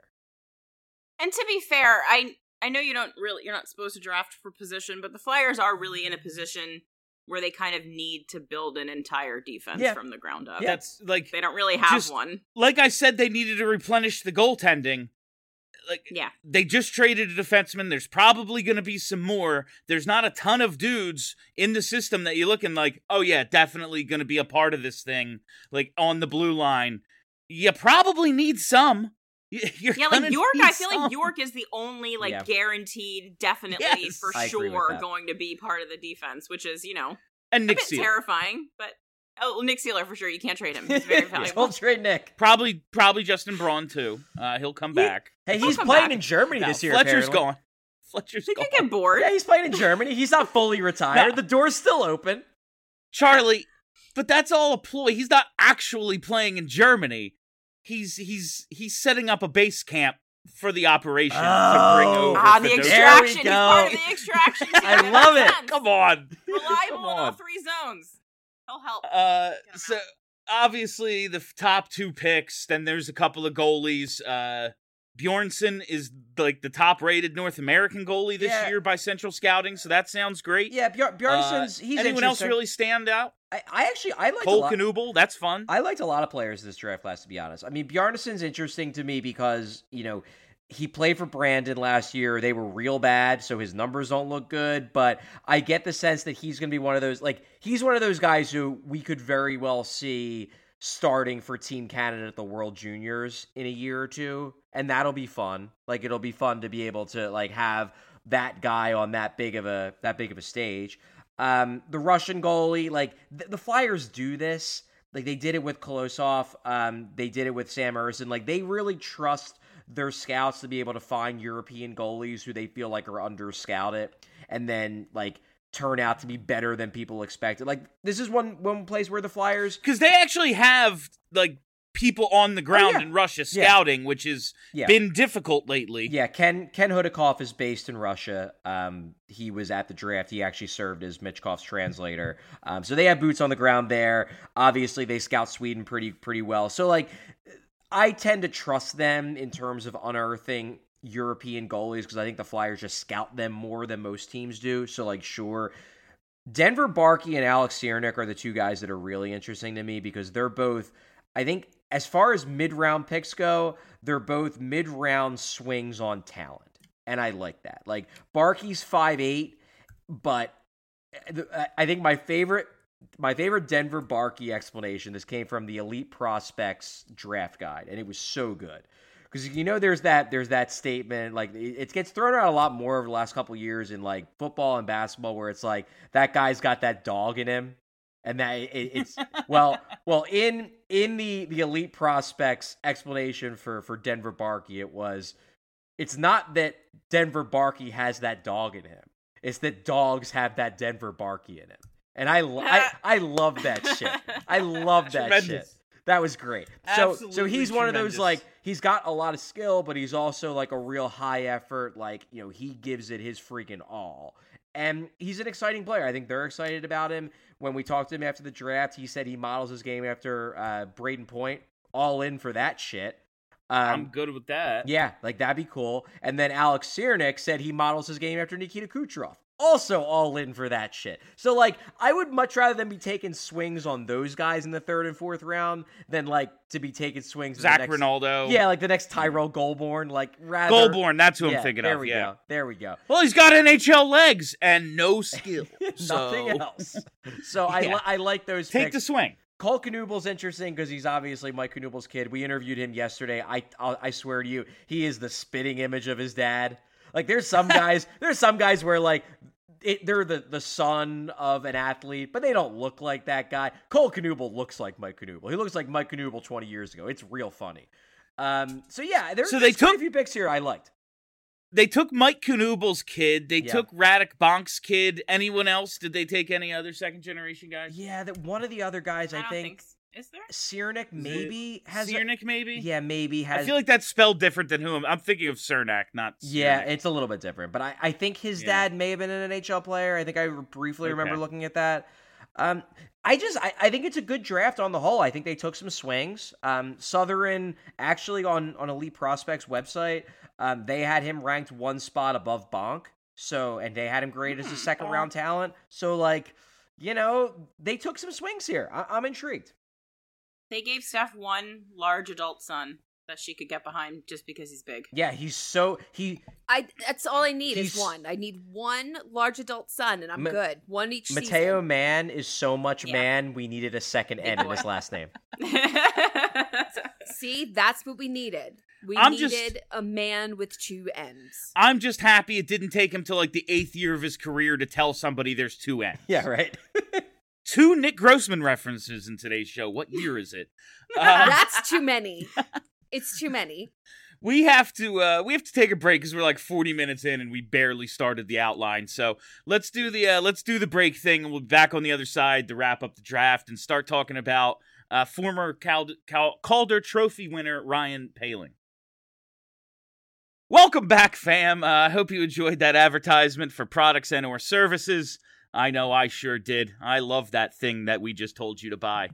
Speaker 7: And to be fair, I know you're not supposed to draft for position, but the Flyers are really in a position where they kind of need to build an entire defense from the ground up.
Speaker 4: Yeah, that's like,
Speaker 7: they don't really have one.
Speaker 4: Like I said, they needed to replenish the goaltending. Like, they just traded a defenseman. There's probably going to be some more. There's not a ton of dudes in the system that you're looking like, oh yeah, definitely going to be a part of this thing. Like on the blue line, you probably need some.
Speaker 7: Like York, I feel like York is the only guaranteed, definitely for sure going to be part of the defense, which is,
Speaker 4: and Nick
Speaker 7: a bit
Speaker 4: Seeler.
Speaker 7: Terrifying, but Nick Seeler for sure. You can't trade him. He's very valuable.
Speaker 6: Don't trade Nick.
Speaker 4: Probably Justin Braun too. He'll come back.
Speaker 6: Hey, he's playing in Germany this year.
Speaker 4: Fletcher's
Speaker 6: apparently.
Speaker 4: gone. Fletcher's gone.
Speaker 7: He could get bored.
Speaker 6: Yeah, he's playing in Germany. He's not fully retired.
Speaker 4: No.
Speaker 6: The door's still open.
Speaker 4: Charlie, but that's all a ploy. He's not actually playing in Germany. He's setting up a base camp for the operation to bring over.
Speaker 7: The extraction. He's part of the extraction.
Speaker 6: I love it.
Speaker 4: Come on.
Speaker 7: Reliable in all 3 zones. He'll help.
Speaker 4: So obviously the top 2 picks. Then there's a couple of goalies. Bjornsson is like the top-rated North American goalie this year by Central Scouting, so that sounds great.
Speaker 6: Yeah, Bjornsson's he's
Speaker 4: anyone else really stand out?
Speaker 6: I liked
Speaker 4: Cole Knuble, that's fun.
Speaker 6: I liked a lot of players this draft class, to be honest. I mean, Bjarnsson's interesting to me because, he played for Brandon last year. They were real bad, so his numbers don't look good. But I get the sense that he's going to be one of those, he's one of those guys who we could very well see starting for Team Canada at the World Juniors in a year or two. And that'll be fun. It'll be fun to be able to, have that guy on that big of a stage. The Russian goalie, the Flyers do this. They did it with Kolosov. They did it with Sam Ersson. They really trust their scouts to be able to find European goalies who they feel like are under-scouted and then, turn out to be better than people expected. This is one place where the Flyers...
Speaker 4: Because they actually have, people on the ground in Russia scouting, which has been difficult lately.
Speaker 6: Yeah, Ken Hudakov is based in Russia. He was at the draft. He actually served as Michkov's translator. So they have boots on the ground there. Obviously, they scout Sweden pretty well. So, I tend to trust them in terms of unearthing European goalies because I think the Flyers just scout them more than most teams do. So, sure. Denver Barkey and Alex Ciernik are the 2 guys that are really interesting to me because they're both, I think, as far as mid-round picks go, they're both mid-round swings on talent. And I like that. Barkey's 5'8", but I think my favorite Denver Barkey explanation, this came from the Elite Prospects draft guide, and it was so good. Because, there's that statement, it gets thrown out a lot more over the last couple of years in, football and basketball, where it's that guy's got that dog in him. And that it's well in the elite prospects explanation for Denver Barkey, it's not that Denver Barkey has that dog in him. It's that dogs have that Denver Barkey in him. And I love that shit. I love that
Speaker 4: Tremendous.
Speaker 6: shit. That was great. So
Speaker 4: Absolutely
Speaker 6: he's one of those,
Speaker 4: tremendous.
Speaker 6: like, he's got a lot of skill, but he's also like a real high effort, like, you know, he gives it his freaking all. And he's an exciting player. I think they're excited about him. When we talked to him after the draft, he said he models his game after Braden Point. All in for that shit.
Speaker 4: I'm good with that.
Speaker 6: Yeah, like, that'd be cool. And then Alex Siernik said he models his game after Nikita Kucherov. Also all in for that shit. So, like, I would much rather than be taking swings on those guys in the 3rd and 4th round than, like, to be taking swings.
Speaker 4: Zach
Speaker 6: the next,
Speaker 4: Rinaldo.
Speaker 6: Yeah, like the next Tyrell Goldborn. Like, rather.
Speaker 4: Goldborn, that's who
Speaker 6: Yeah,
Speaker 4: I'm thinking
Speaker 6: there
Speaker 4: of.
Speaker 6: we
Speaker 4: Yeah.
Speaker 6: go. There we go.
Speaker 4: Well, he's got NHL legs and no skill.
Speaker 6: Nothing
Speaker 4: so
Speaker 6: else. So
Speaker 4: Yeah.
Speaker 6: I like those
Speaker 4: take
Speaker 6: picks.
Speaker 4: the swing.
Speaker 6: Cole Knubel's interesting because he's obviously Mike Knubel's kid. We interviewed him yesterday. I swear to you, he is the spitting image of his dad. Like, there's some guys where, like, they're the son of an athlete, but they don't look like that guy. Cole Knubel looks like Mike Knubel. He looks like Mike Knubel 20 years ago. It's real funny. So yeah, there's
Speaker 4: So they
Speaker 6: quite
Speaker 4: took-
Speaker 6: a few picks here I liked.
Speaker 4: They took Mike Knubel's kid. They
Speaker 6: Yeah.
Speaker 4: took Radek Bonk's kid. Anyone else? Did they take any other second generation guys?
Speaker 6: Yeah, that one of the other guys,
Speaker 7: I
Speaker 6: I
Speaker 7: don't
Speaker 6: think
Speaker 7: is there?
Speaker 6: Siernik maybe has.
Speaker 4: Ciernik, maybe?
Speaker 6: Yeah, maybe has.
Speaker 4: I feel like that's spelled different than who I'm thinking of Cernak, not
Speaker 6: Yeah,
Speaker 4: Ciernik.
Speaker 6: it's a little bit different, but I think his
Speaker 4: Yeah.
Speaker 6: dad may have been an NHL player. I think I briefly remember
Speaker 4: Okay.
Speaker 6: looking at that. I think it's a good draft on the whole. I think they took some swings. Southern actually on Elite Prospects website, they had him ranked one spot above Bonk. So, and they had him graded as a second round talent. So, like, you know, they took some swings here. I'm intrigued.
Speaker 7: They gave Steph one large adult son that she could get behind just because he's big.
Speaker 6: Yeah,
Speaker 5: That's all I need is
Speaker 6: He's-
Speaker 5: one. I need one large adult son, and I'm
Speaker 6: Ma-
Speaker 5: good. One each
Speaker 6: Mateo
Speaker 5: season.
Speaker 6: Mann is so much
Speaker 7: Yeah.
Speaker 6: man, we needed a second N in his last name.
Speaker 5: See, that's what we needed. We
Speaker 4: I'm
Speaker 5: needed
Speaker 4: just-
Speaker 5: a man with two ends.
Speaker 4: I'm just happy it didn't take him till like the 8th year of his career to tell somebody there's two N's.
Speaker 6: Yeah, right.
Speaker 4: 2 Nick Grossman references in today's show. What year is it?
Speaker 5: That's too many. It's too many.
Speaker 4: We have to take a break because we're like 40 minutes in and we barely started the outline. So let's do the break thing, and we'll be back on the other side to wrap up the draft and start talking about former Calder Trophy winner Ryan Poehling. Welcome back, fam. I hope you enjoyed that advertisement for products and or services. I know I sure did. I love that thing that we just told you to buy.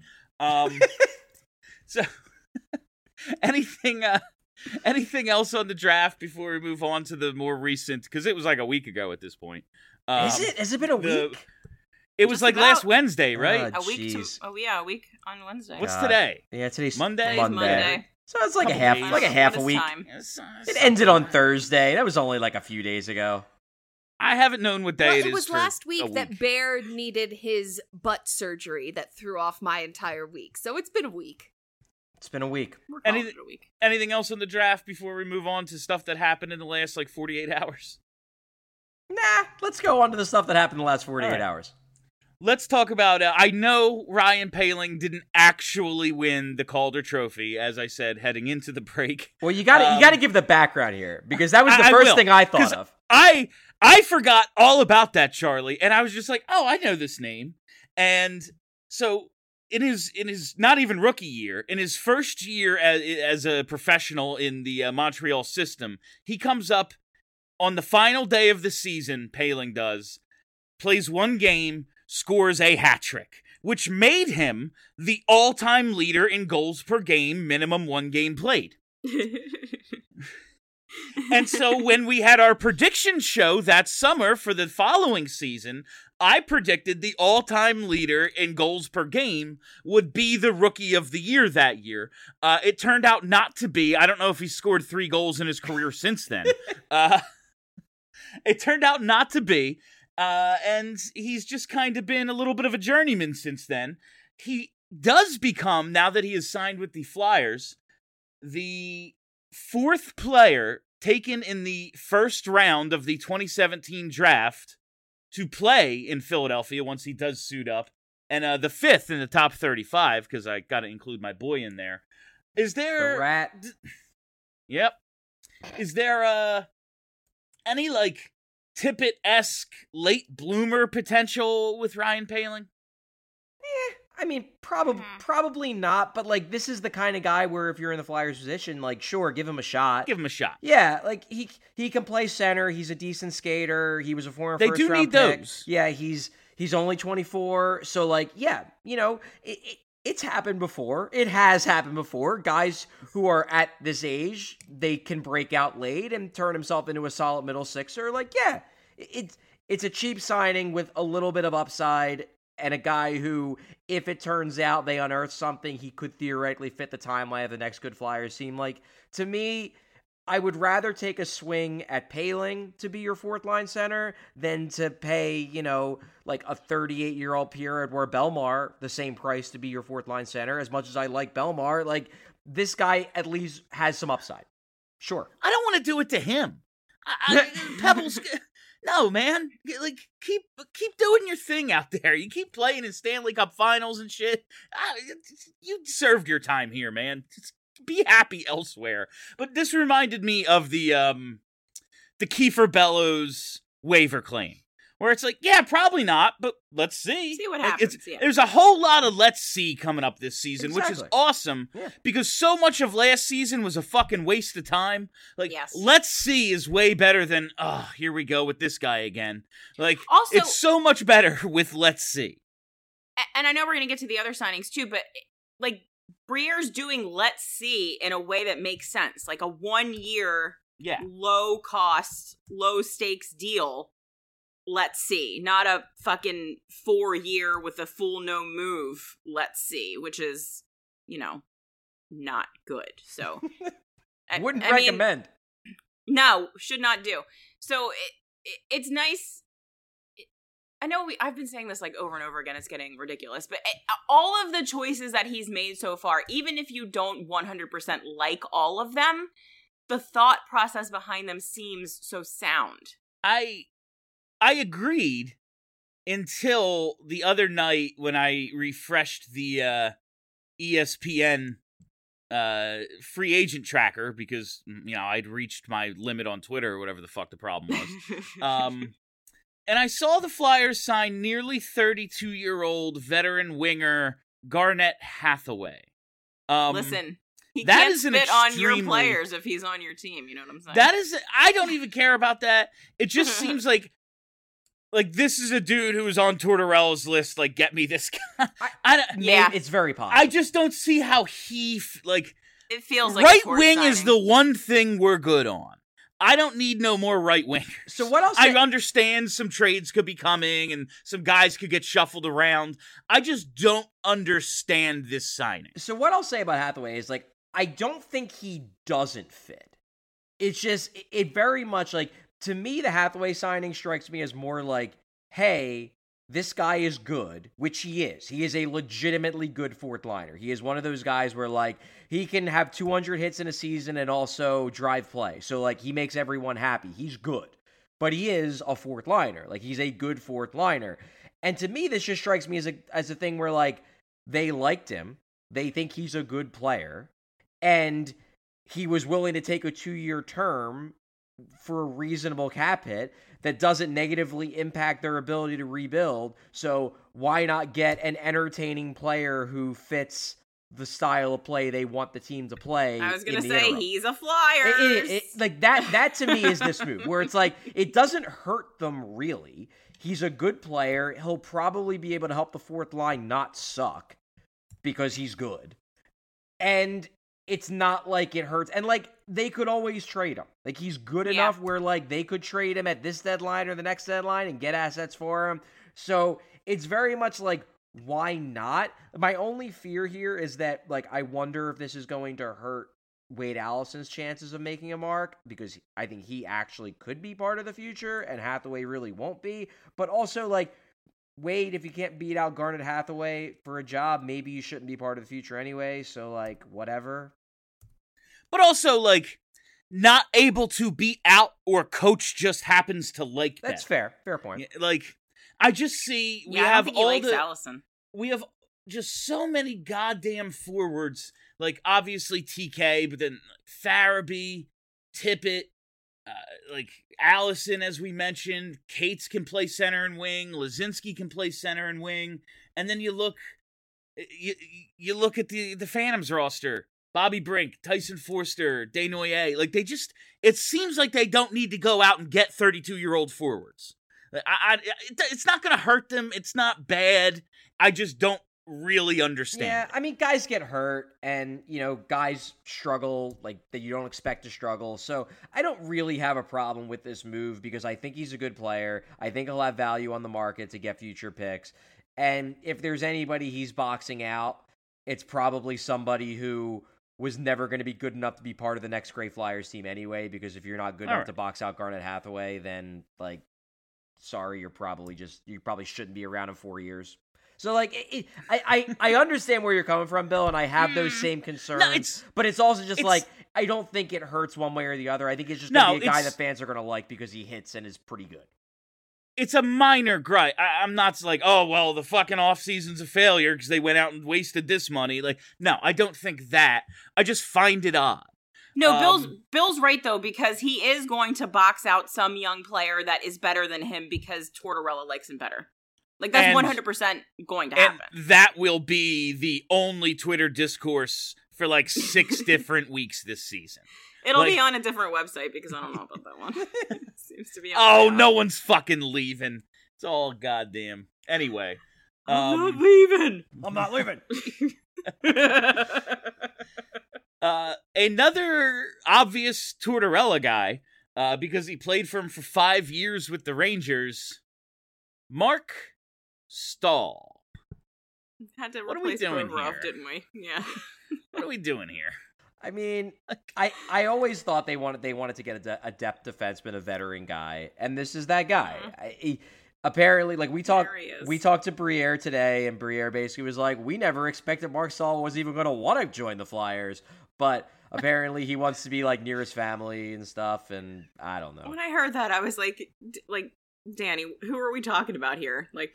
Speaker 4: So anything else on the draft before we move on to the more recent? Because it was like a week ago at this point.
Speaker 6: Is it? Has it been a
Speaker 4: the-
Speaker 6: week?
Speaker 4: It was
Speaker 7: Just
Speaker 4: like
Speaker 7: about.
Speaker 4: last Wednesday, right?
Speaker 6: Oh,
Speaker 7: a week
Speaker 6: jeez.
Speaker 7: a week on Wednesday.
Speaker 4: What's
Speaker 6: God.
Speaker 4: today?
Speaker 6: Yeah, today's
Speaker 4: Monday?
Speaker 7: Today's Monday.
Speaker 6: So it's like a
Speaker 4: Couple
Speaker 6: half,
Speaker 4: days.
Speaker 6: like a half a
Speaker 7: What is
Speaker 6: week.
Speaker 7: time?
Speaker 6: It ended on Thursday. That was only like a few days ago.
Speaker 4: I haven't known what day
Speaker 5: Well,
Speaker 4: it is.
Speaker 5: it was
Speaker 4: for
Speaker 5: last
Speaker 4: a
Speaker 5: week that Bear needed his butt surgery that threw off my entire week. So it's been a week.
Speaker 6: It's been a week.
Speaker 7: We're calling
Speaker 4: Anything-
Speaker 7: it a week.
Speaker 4: Anything else on the draft before we move on to stuff that happened in the last like 48 hours?
Speaker 6: Nah, let's go on to the stuff that happened in the last 48
Speaker 4: All right.
Speaker 6: hours.
Speaker 4: Let's talk about. I know Ryan Poehling didn't actually win the Calder Trophy, as I said heading into the break.
Speaker 6: Well, you got to give the background here because that was the
Speaker 4: I
Speaker 6: first
Speaker 4: will,
Speaker 6: thing I
Speaker 4: 'cause
Speaker 6: thought of.
Speaker 4: I forgot all about that, Charlie, and I was just like, oh, I know this name. And so in his not even rookie year, in his first year as a professional in the Montreal system, he comes up on the final day of the season. Poehling does, plays one game, scores a hat trick, which made him the all-time leader in goals per game, minimum one game played. And so when we had our prediction show that summer for the following season, I predicted the all-time leader in goals per game would be the rookie of the year that year. It turned out not to be. I don't know if he scored 3 goals in his career since then. It turned out not to be. And he's just kind of been a little bit of a journeyman since then. He does become, now that he is signed with the Flyers, the 4th player taken in the first round of the 2017 draft to play in Philadelphia once he does suit up And the fifth in the top 35, because I got to include my boy in there. Is there...
Speaker 6: The rat.
Speaker 4: Yep. Is there any, like, Tippett-esque late bloomer potential with Ryan Poehling?
Speaker 6: I mean, probably not, but, like, this is the kind of guy where if you're in the Flyers position, like, sure, give him a shot.
Speaker 4: Give him a shot.
Speaker 6: Yeah, like, he can play center, he's a decent skater, he was a former
Speaker 4: They
Speaker 6: first-round
Speaker 4: do need
Speaker 6: pick.
Speaker 4: those.
Speaker 6: Yeah, he's only 24, so, like, yeah, you know, it's happened before. It has happened before. Guys who are at this age, they can break out late and turn himself into a solid middle sixer. Like, yeah, it's a cheap signing with a little bit of upside, and a guy who, if it turns out they unearth something, he could theoretically fit the timeline of the next good Flyers team. Like, to me, I would rather take a swing at Poehling to be your fourth line center than to pay, you know, like a 38-year-old Pierre-Edouard Bellemare the same price to be your fourth line center. As much as I like Bellemare, like, this guy at least has some upside. Sure.
Speaker 4: I don't want to do it to him. Pebbles... No, man. Like, keep doing your thing out there. You keep playing in Stanley Cup Finals and shit. You served your time here, man. Just be happy elsewhere. But this reminded me of the Kiefer Bellows waiver claim, where it's like, yeah, probably not, but let's see.
Speaker 7: See what
Speaker 4: Like,
Speaker 7: happens. Yeah.
Speaker 4: There's a whole lot of let's see coming up this season, which is
Speaker 6: Exactly.
Speaker 4: awesome,
Speaker 6: Yeah.
Speaker 4: because so much of last season was a fucking waste of time. Like,
Speaker 7: Yes.
Speaker 4: let's see is way better than, oh, here we go with this guy again. Like,
Speaker 7: Also-
Speaker 4: it's so much better with let's see.
Speaker 7: And I know we're going to get to the other signings too, but like Briere's doing let's see in a way that makes sense. Like a 1 year,
Speaker 4: Yeah.
Speaker 7: low cost, low stakes deal. Let's see. Not a fucking 4 year with a full no move. Let's see, which is, you know, not good. So
Speaker 6: Wouldn't
Speaker 7: I mean,
Speaker 6: recommend.
Speaker 7: no, should not do. So it's nice. I know I've been saying this like over and over again. It's getting ridiculous, but all of the choices that he's made so far, even if you don't 100% like all of them, the thought process behind them seems so sound.
Speaker 4: I agreed until the other night when I refreshed the ESPN free agent tracker because, you know, I'd reached my limit on Twitter or whatever the fuck the problem was. And I saw the Flyers sign nearly 32-year-old veteran winger Garnett Hathaway.
Speaker 7: Listen, he
Speaker 4: that
Speaker 7: can't
Speaker 4: is an
Speaker 7: spit on your
Speaker 4: extremely-
Speaker 7: players if he's on your team. You know what I'm saying?
Speaker 4: That is, I don't even care about that. It just seems like this is a dude who was on Tortorella's list. Like, get me this guy.
Speaker 7: Yeah.
Speaker 6: It's very possible.
Speaker 4: I just don't see how he
Speaker 7: it feels like a
Speaker 4: right
Speaker 7: torch
Speaker 4: wing is
Speaker 7: signing.
Speaker 4: the one thing we're good on. I don't need no more right wingers.
Speaker 6: So what else?
Speaker 4: I understand some trades could be coming and some guys could get shuffled around. I just don't understand this signing.
Speaker 6: So what I'll say about Hathaway is, like, I don't think he doesn't fit. It's just, it very much, like, to me, the Hathaway signing strikes me as more like, hey, this guy is good, which he is. He is a legitimately good fourth liner. He is one of those guys where, like, he can have 200 hits in a season and also drive play. So, like, he makes everyone happy. He's good. But he is a fourth liner. Like, he's a good fourth liner. And to me, this just strikes me as a thing where, like, they liked him. They think he's a good player. And he was willing to take a 2-year term for a reasonable cap hit that doesn't negatively impact their ability to rebuild. So why not get an entertaining player who fits the style of play they want the team to play?
Speaker 7: I was gonna
Speaker 6: in the
Speaker 7: say
Speaker 6: interim?
Speaker 7: he's a Flyers.
Speaker 6: Like that to me is this move where it's like it doesn't hurt them really. He's a good player. He'll probably be able to help the fourth line not suck because he's good. And it's not like it hurts. And, like, they could always trade him. Like, he's good enough where, like, they could trade him at this deadline or the next deadline and get assets for him. So it's very much like, why not? My only fear here is that, like, I wonder if this is going to hurt Wade Allison's chances of making a mark, because I think he actually could be part of the future and Hathaway really won't be. But also, like, Wade, if you can't beat out Garnet Hathaway for a job, maybe you shouldn't be part of the future anyway, so, like, whatever.
Speaker 4: But also, like, not able to beat out or coach just happens to like
Speaker 6: That's
Speaker 4: that.
Speaker 6: fair. Fair point.
Speaker 4: Yeah, like, I just see we
Speaker 7: I don't
Speaker 4: have
Speaker 7: think he
Speaker 4: all
Speaker 7: likes
Speaker 4: the...
Speaker 7: Allison.
Speaker 4: we have just so many goddamn forwards. Like, obviously TK, but then Farabee, Tippett, like Allison, as we mentioned. Cates can play center and wing. Lazinski can play center and wing. And then you look at the Phantoms roster. Bobby Brink, Tyson Forster, Desnoyers. Like, it seems like they don't need to go out and get 32-year-old forwards. It's not going to hurt them. It's not bad. I just don't really understand.
Speaker 6: Yeah, I mean, guys get hurt, and, guys struggle, like, that you don't expect to struggle. So I don't really have a problem with this move because I think he's a good player. I think he'll have value on the market to get future picks. And if there's anybody he's boxing out, it's probably somebody who was never going to be good enough to be part of the next Great Flyers team anyway, because if you're not good enough to box out Garnet Hathaway, then, like, sorry, you probably shouldn't be around in 4 years. So, like, I understand where you're coming from, Bill, and I have those same concerns. But it's also just like, I don't think it hurts one way or the other. I think it's just going to be a guy that fans are going to like because he hits and is pretty good.
Speaker 4: It's a minor gripe. I'm not like, oh, well, the fucking offseason's a failure because they went out and wasted this money. Like, no, I don't think that. I just find it odd.
Speaker 7: No, Bill's right, though, because he is going to box out some young player that is better than him because Tortorella likes him better. Like, that's 100% going to happen.
Speaker 4: And that will be the only Twitter discourse for, like, 6 different weeks this season.
Speaker 7: It'll be on a different website because I don't know about that one. It seems to be on
Speaker 4: no one's fucking leaving. It's all goddamn. Anyway.
Speaker 7: I'm not leaving.
Speaker 6: I'm not leaving.
Speaker 4: Another obvious Tortorella guy, because he played for him for 5 years with the Rangers, Mark Stahl.
Speaker 7: Had to
Speaker 4: what are we doing here?
Speaker 7: Didn't we? Yeah.
Speaker 4: What are we doing here?
Speaker 6: I mean, I always thought they wanted to get a depth defenseman, a veteran guy, and this is that guy.
Speaker 7: Mm-hmm.
Speaker 6: Apparently, like, we talked to Briere today, and Briere basically was like, we never expected Mark Stahl was even going to want to join the Flyers, but apparently he wants to be, like, near his family and stuff, and I don't know.
Speaker 7: When I heard that, I was like, Danny, who are we talking about here? Like,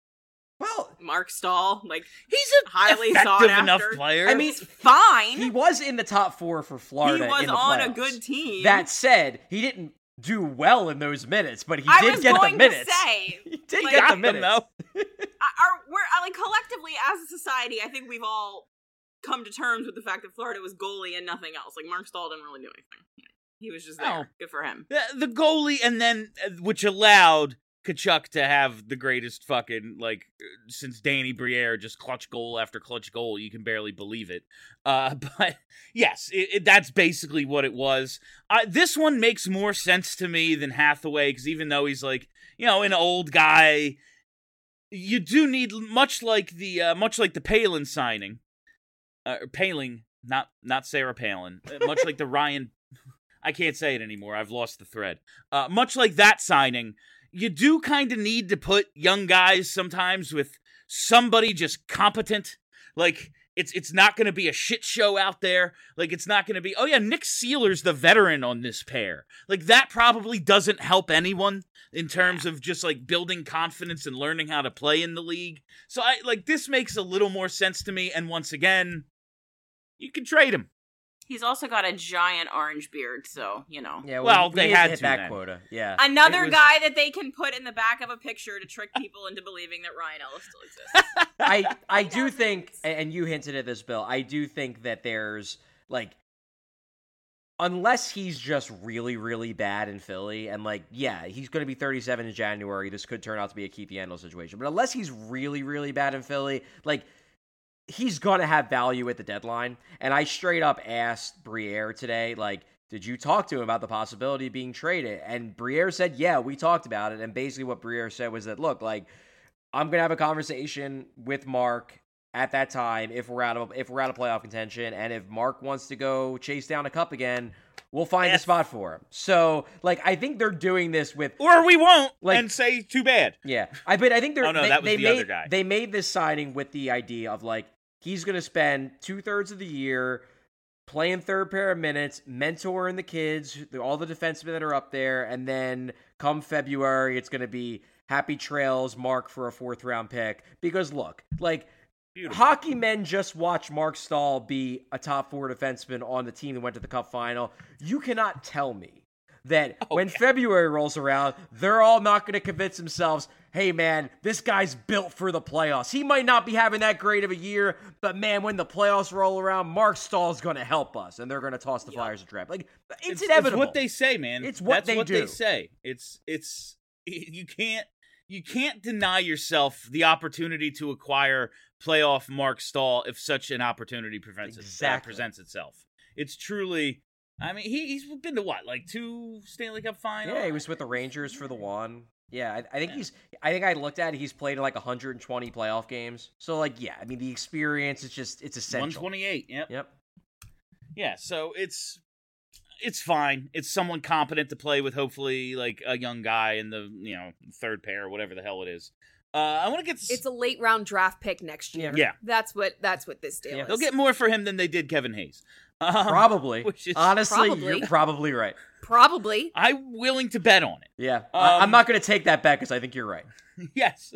Speaker 6: well,
Speaker 7: Mark Stahl, like,
Speaker 4: he's a
Speaker 7: highly
Speaker 4: effective
Speaker 7: sought after
Speaker 4: enough player.
Speaker 6: I mean,
Speaker 7: fine.
Speaker 6: He was in the top 4 for Florida.
Speaker 7: He was
Speaker 6: in the
Speaker 7: on
Speaker 6: playoffs.
Speaker 7: a good team.
Speaker 6: That said, he didn't do well in those minutes, but he did get the minutes. I was going to
Speaker 7: say,
Speaker 6: he did get the minutes.
Speaker 7: We're like, collectively as a society, I think we've all come to terms with the fact that Florida was goalie and nothing else. Like, Mark Stahl didn't really do anything. He was just there.
Speaker 4: No.
Speaker 7: Good for him.
Speaker 4: The goalie, and then which allowed Tkachuk to have the greatest fucking, like, since Danny Briere, just clutch goal after clutch goal. You can barely believe it. But yes, that's basically what it was. This one makes more sense to me than Hathaway, because even though he's, like, an old guy, you do need, much like the Palin signing, Paling, not Sarah Palin, much like the Ryan, I can't say it anymore. I've lost the thread. Much like that signing, you do kind of need to put young guys sometimes with somebody just competent. Like, it's not going to be a shit show out there. Like, it's not going to be, oh yeah, Nick Seeler's the veteran on this pair. Like, that probably doesn't help anyone in terms of just, like, building confidence and learning how to play in the league. So, this makes a little more sense to me. And once again, you can trade him.
Speaker 7: He's also got a giant orange beard, so,
Speaker 6: Yeah,
Speaker 4: well, they had
Speaker 6: hit
Speaker 4: to
Speaker 6: that
Speaker 4: then.
Speaker 6: quota. Yeah.
Speaker 7: Another guy that they can put in the back of a picture to trick people into believing that Ryan Ellis still exists.
Speaker 6: I do think, and you hinted at this, Bill, I do think that there's, like, unless he's just really, really bad in Philly, and, like, yeah, he's going to be 37 in January, this could turn out to be a Keith Yandel situation, but unless he's really, really bad in Philly, like, he's going to have value at the deadline. And I straight up asked Briere today, like, did you talk to him about the possibility of being traded? And Briere said, yeah, we talked about it. And basically what Briere said was that, look, like, I'm going to have a conversation with Mark at that time if we're out of playoff contention. And if Mark wants to go chase down a cup again, we'll find a spot for him. So, like, I think they're doing this with...
Speaker 4: Or we won't,
Speaker 6: like,
Speaker 4: and say, too bad.
Speaker 6: Yeah. But I think they're...
Speaker 4: Oh, no, that was the other guy.
Speaker 6: They made this signing with the idea of, like, he's going to spend 2/3 of the year playing third pair of minutes, mentoring the kids, all the defensemen that are up there, and then come February, it's going to be, Happy trails, Mark, for a 4th round pick. Because look, like,
Speaker 4: Beautiful.
Speaker 6: hockey men just watched Mark Stahl be a top 4 defenseman on the team that went to the Cup final. You cannot tell me that when February rolls around, they're all not going to convince themselves, hey, man, this guy's built for the playoffs. He might not be having that great of a year, but, man, when the playoffs roll around, Mark Stahl's going to help us, and they're going to toss the Flyers a draft. Like, it's inevitable.
Speaker 4: It's what they say, man.
Speaker 6: It's what
Speaker 4: That's what
Speaker 6: do.
Speaker 4: they say. It's you can't deny yourself the opportunity to acquire playoff Mark Stahl if such an opportunity presents itself. It's truly, I mean, he's been to what, like 2 Stanley Cup finals?
Speaker 6: Yeah, he was with the Rangers for the 1. Yeah, I think I looked at it, he's played in like 120 playoff games. So, like, yeah, I mean, the experience is just, it's essential.
Speaker 4: 128,
Speaker 6: Yep.
Speaker 4: Yeah, so it's fine. It's someone competent to play with, hopefully, like a young guy in the, 3rd pair, whatever the hell it is. I want to get
Speaker 5: It's a late round draft pick next year.
Speaker 4: Yeah.
Speaker 5: That's what this deal is.
Speaker 4: They'll get more for him than they did Kevin Hayes.
Speaker 6: Probably.
Speaker 4: Which is
Speaker 6: Honestly,
Speaker 5: probably.
Speaker 6: you're probably right.
Speaker 5: Probably.
Speaker 4: I'm willing to bet on it.
Speaker 6: Yeah. I'm not going to take that bet because I think you're right.
Speaker 4: Yes.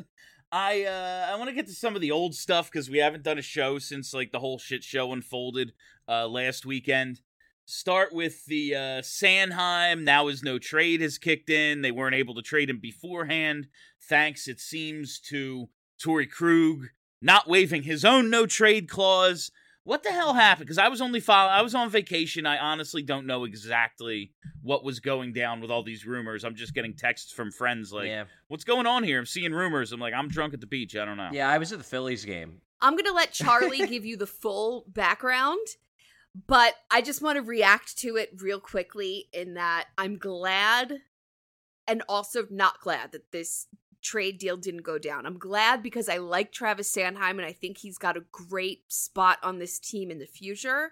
Speaker 4: I want to get to some of the old stuff because we haven't done a show since like the whole shit show unfolded last weekend. Start with the Sanheim. Now his no trade has kicked in. They weren't able to trade him beforehand. Thanks, it seems, to Torrey Krug not waiving his own no trade clause. What the hell happened? Because I was on vacation. I honestly don't know exactly what was going down with all these rumors. I'm just getting texts from friends like, what's going on here? I'm seeing rumors. I'm like, I'm drunk at the beach. I don't know.
Speaker 6: Yeah, I was at the Phillies game.
Speaker 5: I'm going to let Charlie give you the full background, but I just want to react to it real quickly in that I'm glad and also not glad that this trade deal didn't go down. I'm glad because I like Travis Sanheim and I think he's got a great spot on this team in the future,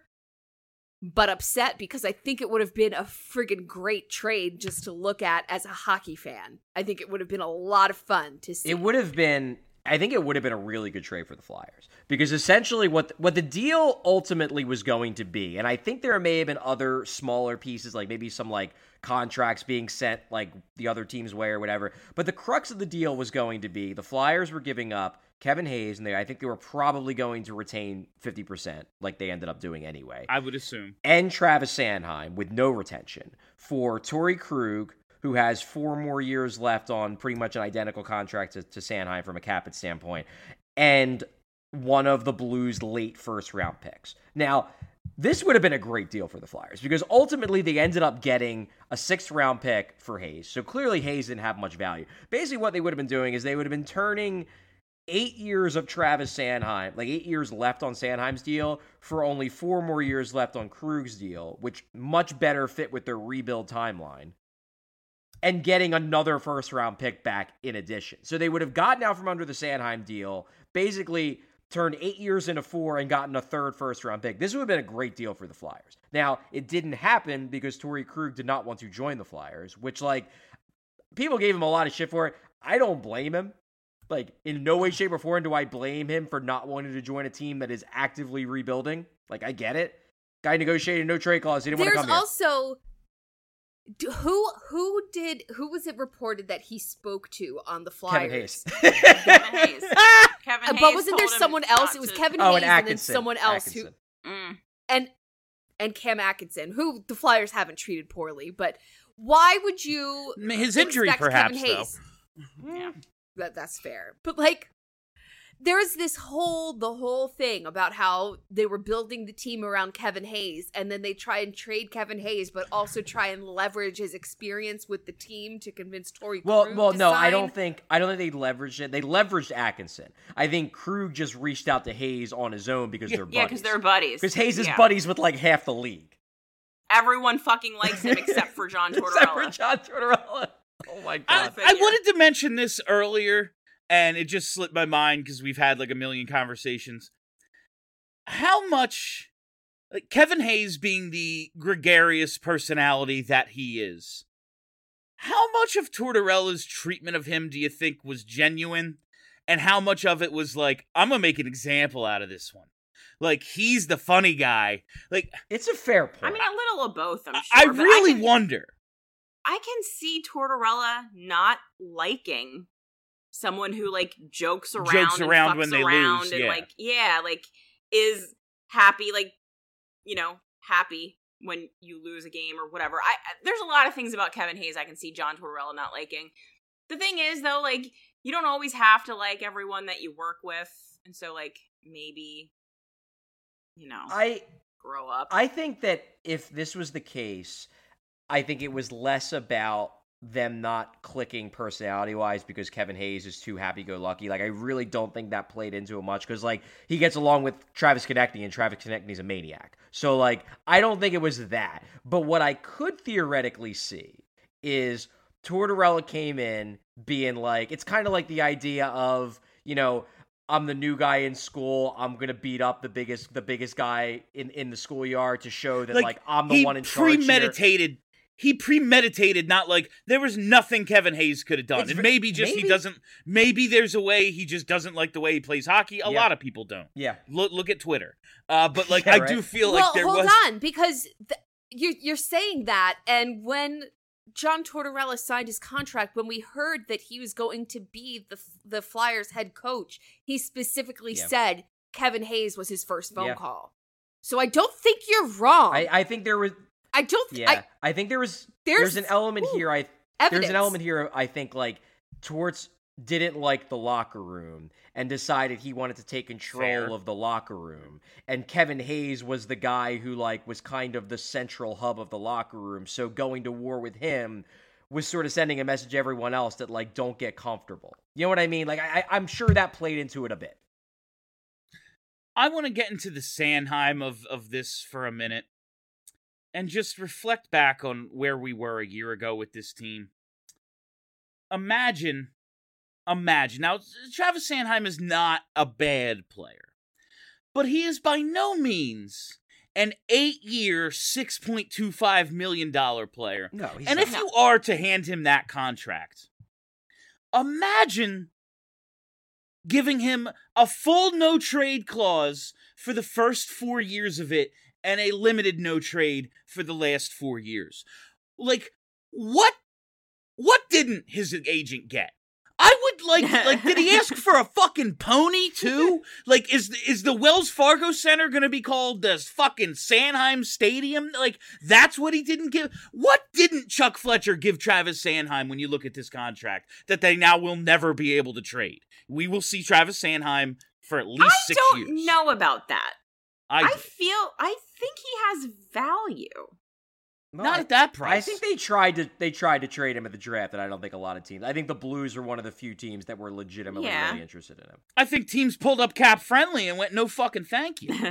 Speaker 5: but upset because I think it would have been a friggin' great trade just to look at as a hockey fan. I think it would have been a lot of fun to see.
Speaker 6: I think it would have been a really good trade for the Flyers because essentially what the deal ultimately was going to be, and I think there may have been other smaller pieces, like maybe some like contracts being sent like the other team's way or whatever, but the crux of the deal was going to be the Flyers were giving up Kevin Hayes, and I think they were probably going to retain 50%, like they ended up doing anyway.
Speaker 4: I would assume.
Speaker 6: And Travis Sanheim with no retention for Torrey Krug, who has 4 more years left on pretty much an identical contract to Sanheim from a Capit standpoint, and one of the Blues' late first-round picks. Now, this would have been a great deal for the Flyers, because ultimately they ended up getting a 6th-round pick for Hayes, so clearly Hayes didn't have much value. Basically what they would have been doing is they would have been turning 8 years of Travis Sanheim, like 8 years left on Sanheim's deal, for only 4 more years left on Krug's deal, which much better fit with their rebuild timeline, and getting another first-round pick back in addition. So they would have gotten out from under the Sanheim deal, basically turned 8 years into 4 and gotten a 3rd first-round pick. This would have been a great deal for the Flyers. Now, it didn't happen because Torrey Krug did not want to join the Flyers, which, like, people gave him a lot of shit for it. I don't blame him. Like, in no way, shape, or form do I blame him for not wanting to join a team that is actively rebuilding. Like, I get it. Guy negotiated no trade clause. He didn't want to come here.
Speaker 5: There's also... Who was it reported that he spoke to on the Flyers?
Speaker 6: Kevin Hayes.
Speaker 7: Kevin Hayes. Kevin Hayes
Speaker 5: But wasn't there
Speaker 7: told him
Speaker 5: someone
Speaker 7: not
Speaker 5: else? It was
Speaker 7: to-
Speaker 5: Kevin
Speaker 6: Oh,
Speaker 5: Hayes
Speaker 6: and
Speaker 5: and then
Speaker 6: Atkinson.
Speaker 5: someone else
Speaker 6: Atkinson.
Speaker 5: and Cam Atkinson, who the Flyers haven't treated poorly. But why would you?
Speaker 4: His injury,
Speaker 5: expect
Speaker 4: perhaps,
Speaker 5: Kevin Hayes?
Speaker 7: Yeah.
Speaker 5: That's fair. But like, there's the whole thing about how they were building the team around Kevin Hayes, and then they try and trade Kevin Hayes, but also try and leverage his experience with the team to convince Torrey Krug
Speaker 6: Well,
Speaker 5: to
Speaker 6: no,
Speaker 5: sign.
Speaker 6: I don't think they leveraged it. They leveraged Atkinson. I think Krug just reached out to Hayes on his own because they're buddies.
Speaker 7: Yeah, because they're buddies.
Speaker 6: Because Hayes is
Speaker 7: Yeah.
Speaker 6: buddies with like half the league.
Speaker 7: Everyone fucking likes him except for John Tortorella.
Speaker 6: Except for John Tortorella. Oh my god.
Speaker 4: I wanted to mention this earlier, and it just slipped my mind because we've had like a million conversations. How much, like Kevin Hayes being the gregarious personality that he is, how much of Tortorella's treatment of him do you think was genuine? And how much of it was like, I'm going to make an example out of this one? Like, he's the funny guy. Like,
Speaker 6: It's a fair point.
Speaker 7: I mean, a little of both, I'm sure.
Speaker 4: I
Speaker 7: but
Speaker 4: really
Speaker 7: can-
Speaker 4: wonder.
Speaker 7: I can see Tortorella not liking someone who like jokes around
Speaker 4: Jokes
Speaker 7: and
Speaker 4: around
Speaker 7: fucks
Speaker 4: when they
Speaker 7: around
Speaker 4: lose,
Speaker 7: and
Speaker 4: yeah.
Speaker 7: like is happy, like, happy when you lose a game or whatever. There's a lot of things about Kevin Hayes I can see John Tortorella not liking. The thing is, though, like, you don't always have to like everyone that you work with, and so like maybe, grow up.
Speaker 6: I think that if this was the case, I think it was less about them not clicking personality-wise because Kevin Hayes is too happy-go-lucky. Like, I really don't think that played into it much because, like, he gets along with Travis Konechny, and Travis Konechny's a maniac. So, like, I don't think it was that. But what I could theoretically see is Tortorella came in being like, it's kind of like the idea of, I'm the new guy in school. I'm gonna beat up the biggest guy in the schoolyard to show that like I'm the one in charge.
Speaker 4: He premeditated, not like there was nothing Kevin Hayes could have done. And maybe he doesn't. Maybe there's a way he just doesn't like the way he plays hockey. A lot of people don't.
Speaker 6: Yeah.
Speaker 4: Look at Twitter. But like
Speaker 6: Yeah,
Speaker 4: I
Speaker 6: right.
Speaker 4: do feel like there was.
Speaker 5: Hold on, because you're saying that, and when John Tortorella signed his contract, when we heard that he was going to be the Flyers head coach, he specifically said Kevin Hayes was his first phone call. So I don't think you're wrong.
Speaker 6: I think there was.
Speaker 5: I don't.
Speaker 6: Yeah, I think there's an element here. There's an element here. I think like Torts didn't like the locker room and decided he wanted to take control of the locker room. And Kevin Hayes was the guy who like was kind of the central hub of the locker room. So going to war with him was sort of sending a message to everyone else that like don't get comfortable. You know what I mean? Like I'm sure that played into it a bit.
Speaker 4: I want to get into the Sanheim of this for a minute and just reflect back on where we were a year ago with this team. Imagine. Now, Travis Sanheim is not a bad player, but he is by no means an 8-year, $6.25 million player.
Speaker 6: No, he's
Speaker 4: and
Speaker 6: not.
Speaker 4: if you are to hand him that contract, imagine giving him a full no-trade clause for the first 4 years of it and a limited no-trade for the last 4 years. Like, what didn't his agent get? I would like, did he ask for a fucking pony too? Like, is the Wells Fargo Center gonna be called the fucking Sanheim Stadium? Like, that's what he didn't give? What didn't Chuck Fletcher give Travis Sanheim when you look at this contract that they now will never be able to trade? We will see Travis Sanheim for at least 6 years.
Speaker 7: I don't know about that. I
Speaker 4: do.
Speaker 7: think he has value.
Speaker 6: Well,
Speaker 4: Not at that price.
Speaker 6: I think they tried to trade him at the draft, and I don't think a lot of teams. I think the Blues are one of the few teams that were legitimately really interested in him.
Speaker 4: I think teams pulled up cap friendly and went, no fucking thank you.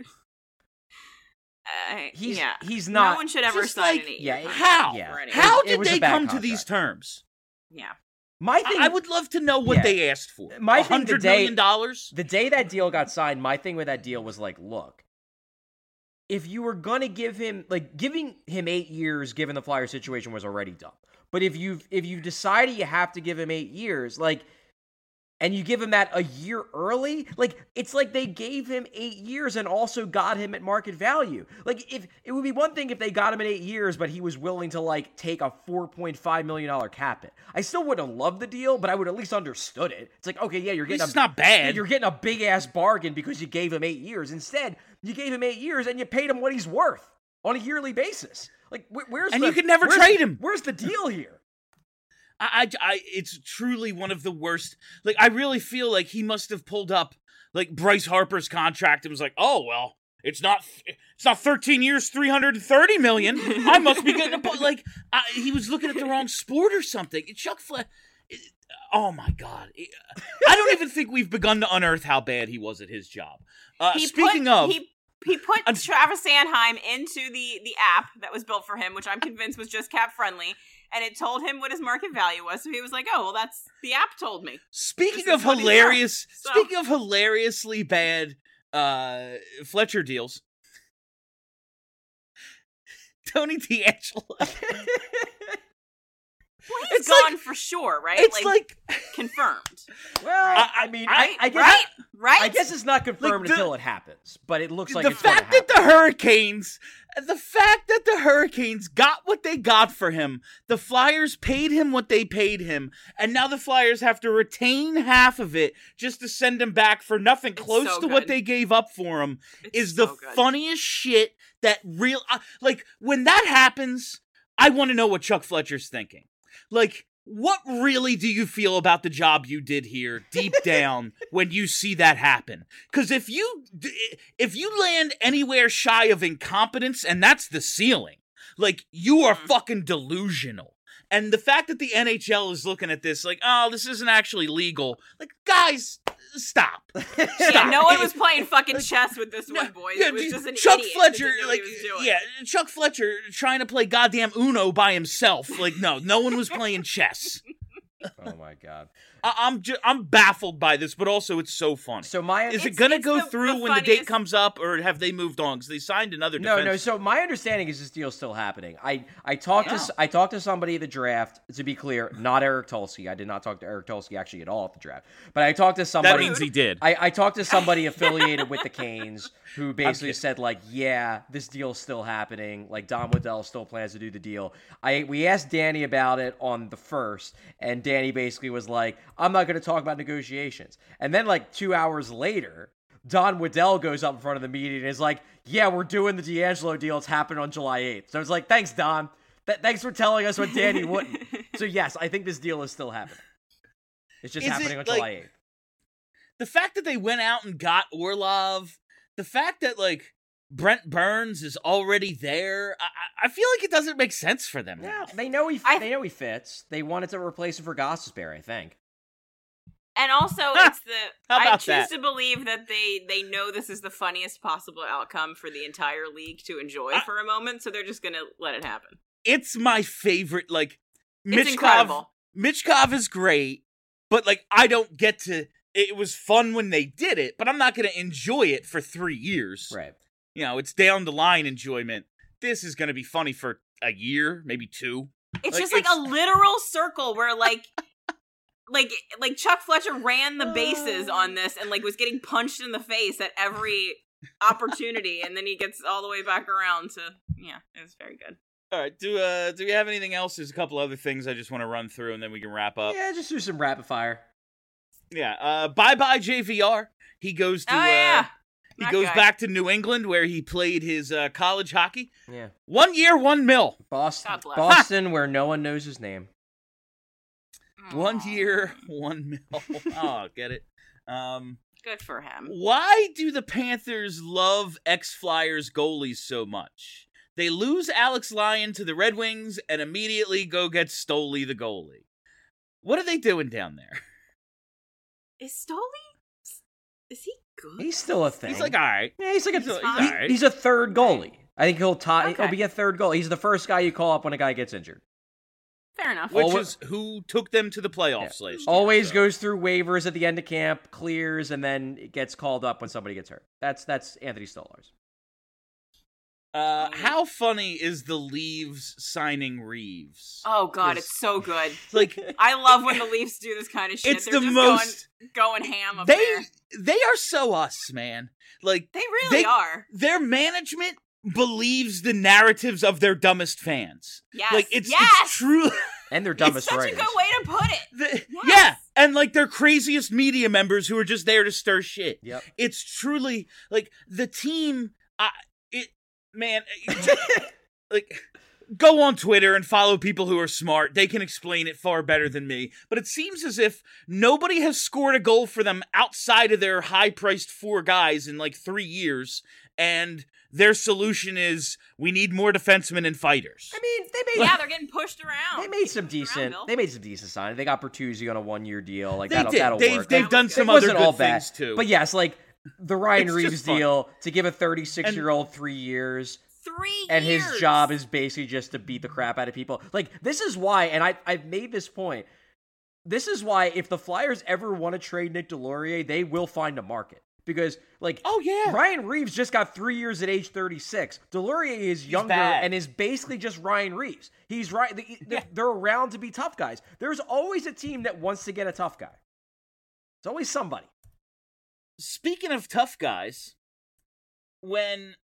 Speaker 6: He's not.
Speaker 7: No one should ever
Speaker 4: just
Speaker 7: sign
Speaker 4: like-
Speaker 7: an 8-year
Speaker 6: Yeah,
Speaker 7: contract
Speaker 6: yeah.
Speaker 7: for anyone.
Speaker 4: How
Speaker 6: It
Speaker 4: did
Speaker 6: was a
Speaker 4: they
Speaker 6: bad
Speaker 4: come to
Speaker 6: contract.
Speaker 4: these terms?
Speaker 7: Yeah.
Speaker 6: My thing.
Speaker 4: I would love to know what they asked for.
Speaker 6: My thing
Speaker 4: $100 million?
Speaker 6: The day that deal got signed, my thing with that deal was like, look, if you were gonna give him giving him 8 years, given the Flyer situation, was already dumb. But if you've decided you have to give him 8 years, and you give him that a year early, it's like they gave him 8 years and also got him at market value. If it would be one thing if they got him at 8 years, but he was willing to take a $4.5 million cap hit. I still wouldn't have loved the deal, but I would at least understood it. It's like, okay, yeah, you're getting
Speaker 4: It's not bad.
Speaker 6: You're getting a big ass bargain because you gave him 8 years. Instead, you gave him 8 years and you paid him what he's worth on a yearly basis.
Speaker 4: You could never trade him.
Speaker 6: Where's the deal here?
Speaker 4: It's truly one of the worst. I really feel like he must have pulled up Bryce Harper's contract and was like, oh well, it's not 13 years, $330 million. I must be getting he was looking at the wrong sport or something. Chuck Fletcher. Oh my God! I don't even think we've begun to unearth how bad he was at his job.
Speaker 7: He put Travis Sanheim into the app that was built for him, which I'm convinced was just cap friendly, and it told him what his market value was. So he was like, "Oh, well, that's the app told me."
Speaker 4: Speaking of hilariously bad Fletcher deals, Tony D'Angelo.
Speaker 7: Well, he's gone for sure, right?
Speaker 4: It's
Speaker 7: confirmed.
Speaker 6: Well, I mean,
Speaker 7: Right?
Speaker 6: I guess
Speaker 7: right? Right?
Speaker 6: I guess it's not confirmed
Speaker 4: the-
Speaker 6: until it happens, but it looks like
Speaker 4: the
Speaker 6: it's going to
Speaker 4: fact that
Speaker 6: happen.
Speaker 4: the fact that the Hurricanes got what they got for him, the Flyers paid him what they paid him, and now the Flyers have to retain half of it just to send him back for nothing
Speaker 7: It's
Speaker 4: close
Speaker 7: so
Speaker 4: to what
Speaker 7: good.
Speaker 4: they gave up for him
Speaker 7: It's
Speaker 4: is the
Speaker 7: so good.
Speaker 4: funniest shit that real like when that happens, I want to know what Chuck Fletcher's thinking. Like, what really do you feel about the job you did here deep down when you see that happen? Because if you land anywhere shy of incompetence, and that's the ceiling, like, you are fucking delusional. And the fact that the NHL is looking at this like, oh, this isn't actually legal. Like, guys, stop.
Speaker 7: Yeah,
Speaker 4: Stop.
Speaker 7: no one was playing fucking chess with this one, boys.
Speaker 4: Yeah,
Speaker 7: It was just an
Speaker 4: Chuck
Speaker 7: idiot who
Speaker 4: Fletcher,
Speaker 7: didn't know what
Speaker 4: like,
Speaker 7: he was doing.
Speaker 4: yeah, Chuck Fletcher trying to play goddamn Uno by himself. Like, no one was playing chess.
Speaker 6: Oh my god.
Speaker 4: I'm baffled by this, but also it's so funny.
Speaker 6: So my
Speaker 4: Is it
Speaker 7: It's-
Speaker 4: gonna
Speaker 7: it's
Speaker 4: go
Speaker 7: the
Speaker 4: through when the date
Speaker 7: funniest-
Speaker 4: comes up, or have they moved on? Because they signed another
Speaker 6: No,
Speaker 4: defense.
Speaker 6: so my understanding is this deal's still happening. I talked to somebody at the draft. To be clear, not Eric Tulsky. I did not talk to Eric Tulsky actually at all at the draft. But I talked to
Speaker 4: That
Speaker 6: somebody.
Speaker 4: means he did.
Speaker 6: I talked to somebody affiliated with the Canes who basically
Speaker 4: kidding.
Speaker 6: said, like, yeah, this deal's still happening. Like, Don Waddell still plans to do the deal. We asked Danny about it on the 1st, and Danny basically was like, I'm not going to talk about negotiations. And then, like, 2 hours later, Don Waddell goes up in front of the meeting and is like, yeah, we're doing the D'Angelo deal. It's happening on July 8th. So I was like, thanks, Don. Thanks for telling us what Danny wouldn't. So, yes, I think this deal is still happening. It's just
Speaker 4: Is
Speaker 6: happening
Speaker 4: it,
Speaker 6: on
Speaker 4: like-
Speaker 6: July 8th.
Speaker 4: The fact that they went out and got Orlov, the fact that, like, Brent Burns is already there, I feel like it doesn't make sense for them.
Speaker 6: Yeah,
Speaker 4: now.
Speaker 6: they know he
Speaker 7: I-
Speaker 6: they know he fits. They wanted to replace him for Gostisbehere, I think.
Speaker 7: And also, it's the
Speaker 4: How
Speaker 7: I
Speaker 4: about
Speaker 7: choose
Speaker 4: that?
Speaker 7: to believe that they know this is the funniest possible outcome for the entire league to enjoy for a moment, so they're just gonna let it happen.
Speaker 4: It's my favorite, like,
Speaker 7: It's incredible.
Speaker 4: Mitchkov is great, but, like, I don't get to... It was fun when they did it, but I'm not going to enjoy it for 3 years.
Speaker 6: Right.
Speaker 4: You know, it's down the line enjoyment. This is going to be funny for a year, maybe 2.
Speaker 7: It's
Speaker 4: Like,
Speaker 7: just like a literal circle where like Chuck Fletcher ran the bases on this and like was getting punched in the face at every opportunity, and then he gets all the way back around to it was very good.
Speaker 4: All right, do we have anything else? There's a couple other things I just want to run through, and then we can wrap up.
Speaker 6: Yeah, just do some rapid fire.
Speaker 4: Yeah. Bye-bye JVR. He goes to...
Speaker 7: That
Speaker 4: he goes
Speaker 7: guy.
Speaker 4: back to New England, where he played his college hockey.
Speaker 6: Yeah.
Speaker 4: 1 year, $1 million.
Speaker 6: Boston,
Speaker 7: God bless.
Speaker 6: Boston, where no one knows his name.
Speaker 4: 1 year, $1 million. Oh, get it?
Speaker 7: Good for him.
Speaker 4: Why do the Panthers love ex-Flyers goalies so much? They lose Alex Lyon to the Red Wings and immediately go get Stoli the goalie. What are they doing down there?
Speaker 7: Is Stoli? Is he good?
Speaker 6: He's still a thing.
Speaker 4: He's like, all right.
Speaker 6: yeah, he's like
Speaker 4: He's all
Speaker 7: fine.
Speaker 4: right.
Speaker 6: he's a third goalie. I think he'll
Speaker 7: Okay.
Speaker 6: be a third goalie. He's the first guy you call up when a guy gets injured.
Speaker 7: Fair enough.
Speaker 4: Which
Speaker 6: Alwa-
Speaker 4: is who took them to the playoffs last year.
Speaker 6: Always
Speaker 4: so.
Speaker 6: goes through waivers at the end of camp, clears, and then it gets called up when somebody gets hurt. That's Anthony Stolarz.
Speaker 4: How funny is the Leaves signing Reeves?
Speaker 7: Oh god, it's so good.
Speaker 4: Like,
Speaker 7: I love when the Leafs do this kind of shit.
Speaker 4: it's
Speaker 7: They're
Speaker 4: the
Speaker 7: just
Speaker 4: most.
Speaker 7: going ham up
Speaker 4: They
Speaker 7: there.
Speaker 4: are so us, man. Like,
Speaker 7: They really are.
Speaker 4: Their management believes the narratives of their dumbest fans.
Speaker 7: Yes.
Speaker 4: Like, it's
Speaker 7: yes.
Speaker 4: true.
Speaker 6: And their
Speaker 7: It's
Speaker 6: dumbest
Speaker 7: such
Speaker 6: writers.
Speaker 7: a good way to put it.
Speaker 4: Yeah,
Speaker 7: Yes.
Speaker 4: and like their craziest media members who are just there to stir shit.
Speaker 6: Yep.
Speaker 4: It's truly like the team. Like, go on Twitter and follow people who are smart. They can explain it far better than me. But it seems as if nobody has scored a goal for them outside of their high-priced 4 guys in like 3 years, and their solution is we need more defensemen and fighters.
Speaker 6: I mean, they made
Speaker 7: Yeah, they're getting pushed around.
Speaker 6: they made some decent.
Speaker 7: Bill.
Speaker 6: They made some decent signings. They got Bertuzzi on a 1-year deal. Like
Speaker 4: They
Speaker 6: that'll
Speaker 4: did.
Speaker 6: that'll
Speaker 4: They've
Speaker 6: work.
Speaker 4: done
Speaker 7: It
Speaker 4: some
Speaker 6: It
Speaker 4: other
Speaker 6: wasn't
Speaker 4: good
Speaker 6: all bad,
Speaker 4: things too.
Speaker 6: But yes, like the Ryan
Speaker 4: It's just
Speaker 6: Reeves
Speaker 4: fun.
Speaker 6: deal to give a 36-year-old 3 years.
Speaker 7: 3 years.
Speaker 6: And his job is basically just to beat the crap out of people. Like, this is why, and I've made this point, this is why if the Flyers ever want to trade Nick Delorier, they will find a market. Because, like,
Speaker 4: Oh, yeah.
Speaker 6: Ryan Reeves just got 3 years at age 36. Delorier is younger
Speaker 4: bad.
Speaker 6: and is basically just Ryan Reeves. He's right. They're around to be tough guys. There's always a team that wants to get a tough guy. It's always somebody.
Speaker 4: Speaking of tough guys, when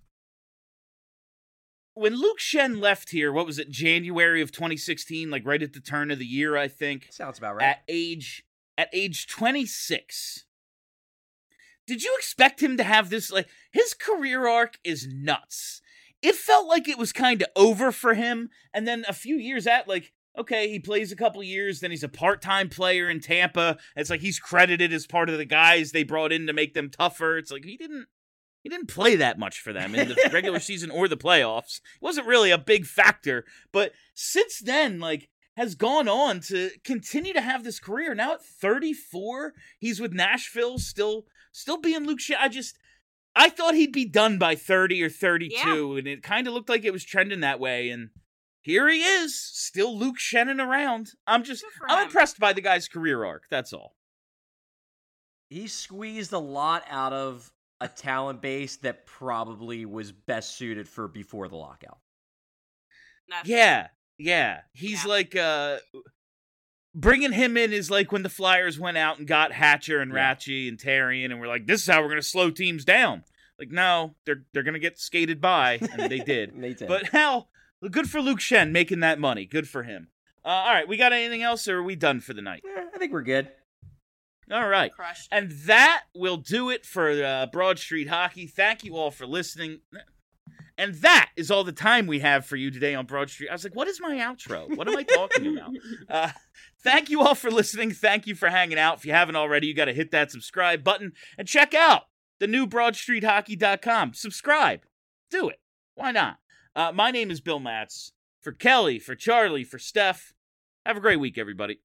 Speaker 4: Luke Shen left here, what was it, January of 2016, like right at the turn of the year, I think.
Speaker 6: Sounds about right.
Speaker 4: At age 26. Did you expect him to have this, like, his career arc is nuts. It felt like it was kind of over for him, and then a few years like, okay, he plays a couple years, then he's a part-time player in Tampa. It's like he's credited as part of the guys they brought in to make them tougher. It's like he didn't play that much for them in the regular season or the playoffs. It wasn't really a big factor, but since then, like, has gone on to continue to have this career. Now at 34, he's with Nashville, still being Luke Shen. I thought he'd be done by 30 or 32, and it kind of looked like it was trending that way, and here he is, still Luke Shenning around. I'm impressed by the guy's career arc, that's all.
Speaker 6: He squeezed a lot out of a talent base that probably was best suited for before the lockout.
Speaker 4: Yeah. He's like, bringing him in is like when the Flyers went out and got Hatcher and Ratchy and Tarian, and we're like, this is how we're going to slow teams down. Like, no, they're going to get skated by, and they did.
Speaker 6: They did.
Speaker 4: But hell, good for Luke Shen making that money. Good for him. All right, we got anything else, or are we done for the night?
Speaker 6: I think we're good.
Speaker 4: All right.
Speaker 7: Crushed.
Speaker 4: And that will do it for Broad Street Hockey. Thank you all for listening. And that is all the time we have for you today on Broad Street. I was like, what is my outro? What am I talking about? Thank you all for listening. Thank you for hanging out. If you haven't already, you got to hit that subscribe button and check out the new BroadStreetHockey.com. Subscribe. Do it. Why not? My name is Bill Matz. For Kelly, for Charlie, for Steph, have a great week, everybody.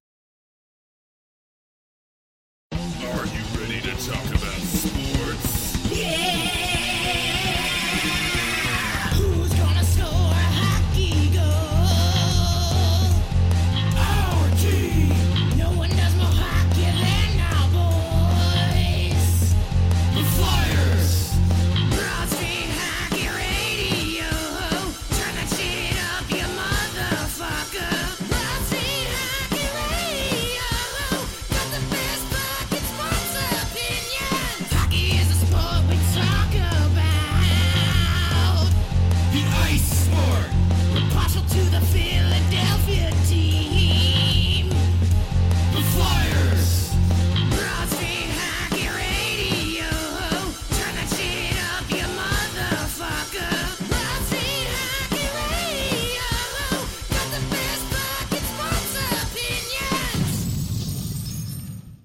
Speaker 1: Are you ready to talk about sports?
Speaker 3: Who's gonna score a hockey goal? Our team. No one does more hockey than our boys. The Flyers. Broad Street Hockey Radio. Turn that shit up, you motherfucker. Broad Street Hockey Radio. Got the best fucking sports opinions. Hockey is a sport we talk about. The ice sport. We're partial to the Philadelphia team. The Flyers. Broad Street Hockey Radio. Turn that shit up, you motherfucker. Broad Street Hockey Radio. Got the best fucking sports opinions.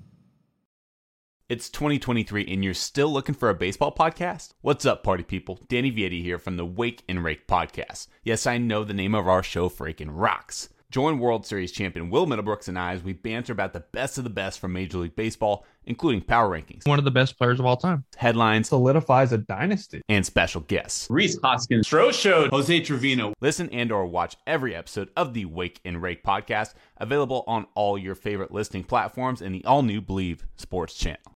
Speaker 8: It's 2023 and you're still looking for a baseball podcast? What's up, party people? Danny Vietti here from the Wake and Rake podcast. Yes, I know the name of our show freaking rocks. Join World Series champion Will Middlebrooks and I as we banter about the best of the best from Major League Baseball, including power rankings,
Speaker 9: One of the best players of all time.
Speaker 8: headlines,
Speaker 9: Solidifies a dynasty.
Speaker 8: and special guests.
Speaker 10: Reese Hoskins, Stro Showed, Jose Trevino.
Speaker 8: Listen and or watch every episode of the Wake and Rake podcast, available on all your favorite listening platforms and the all-new Believe Sports channel.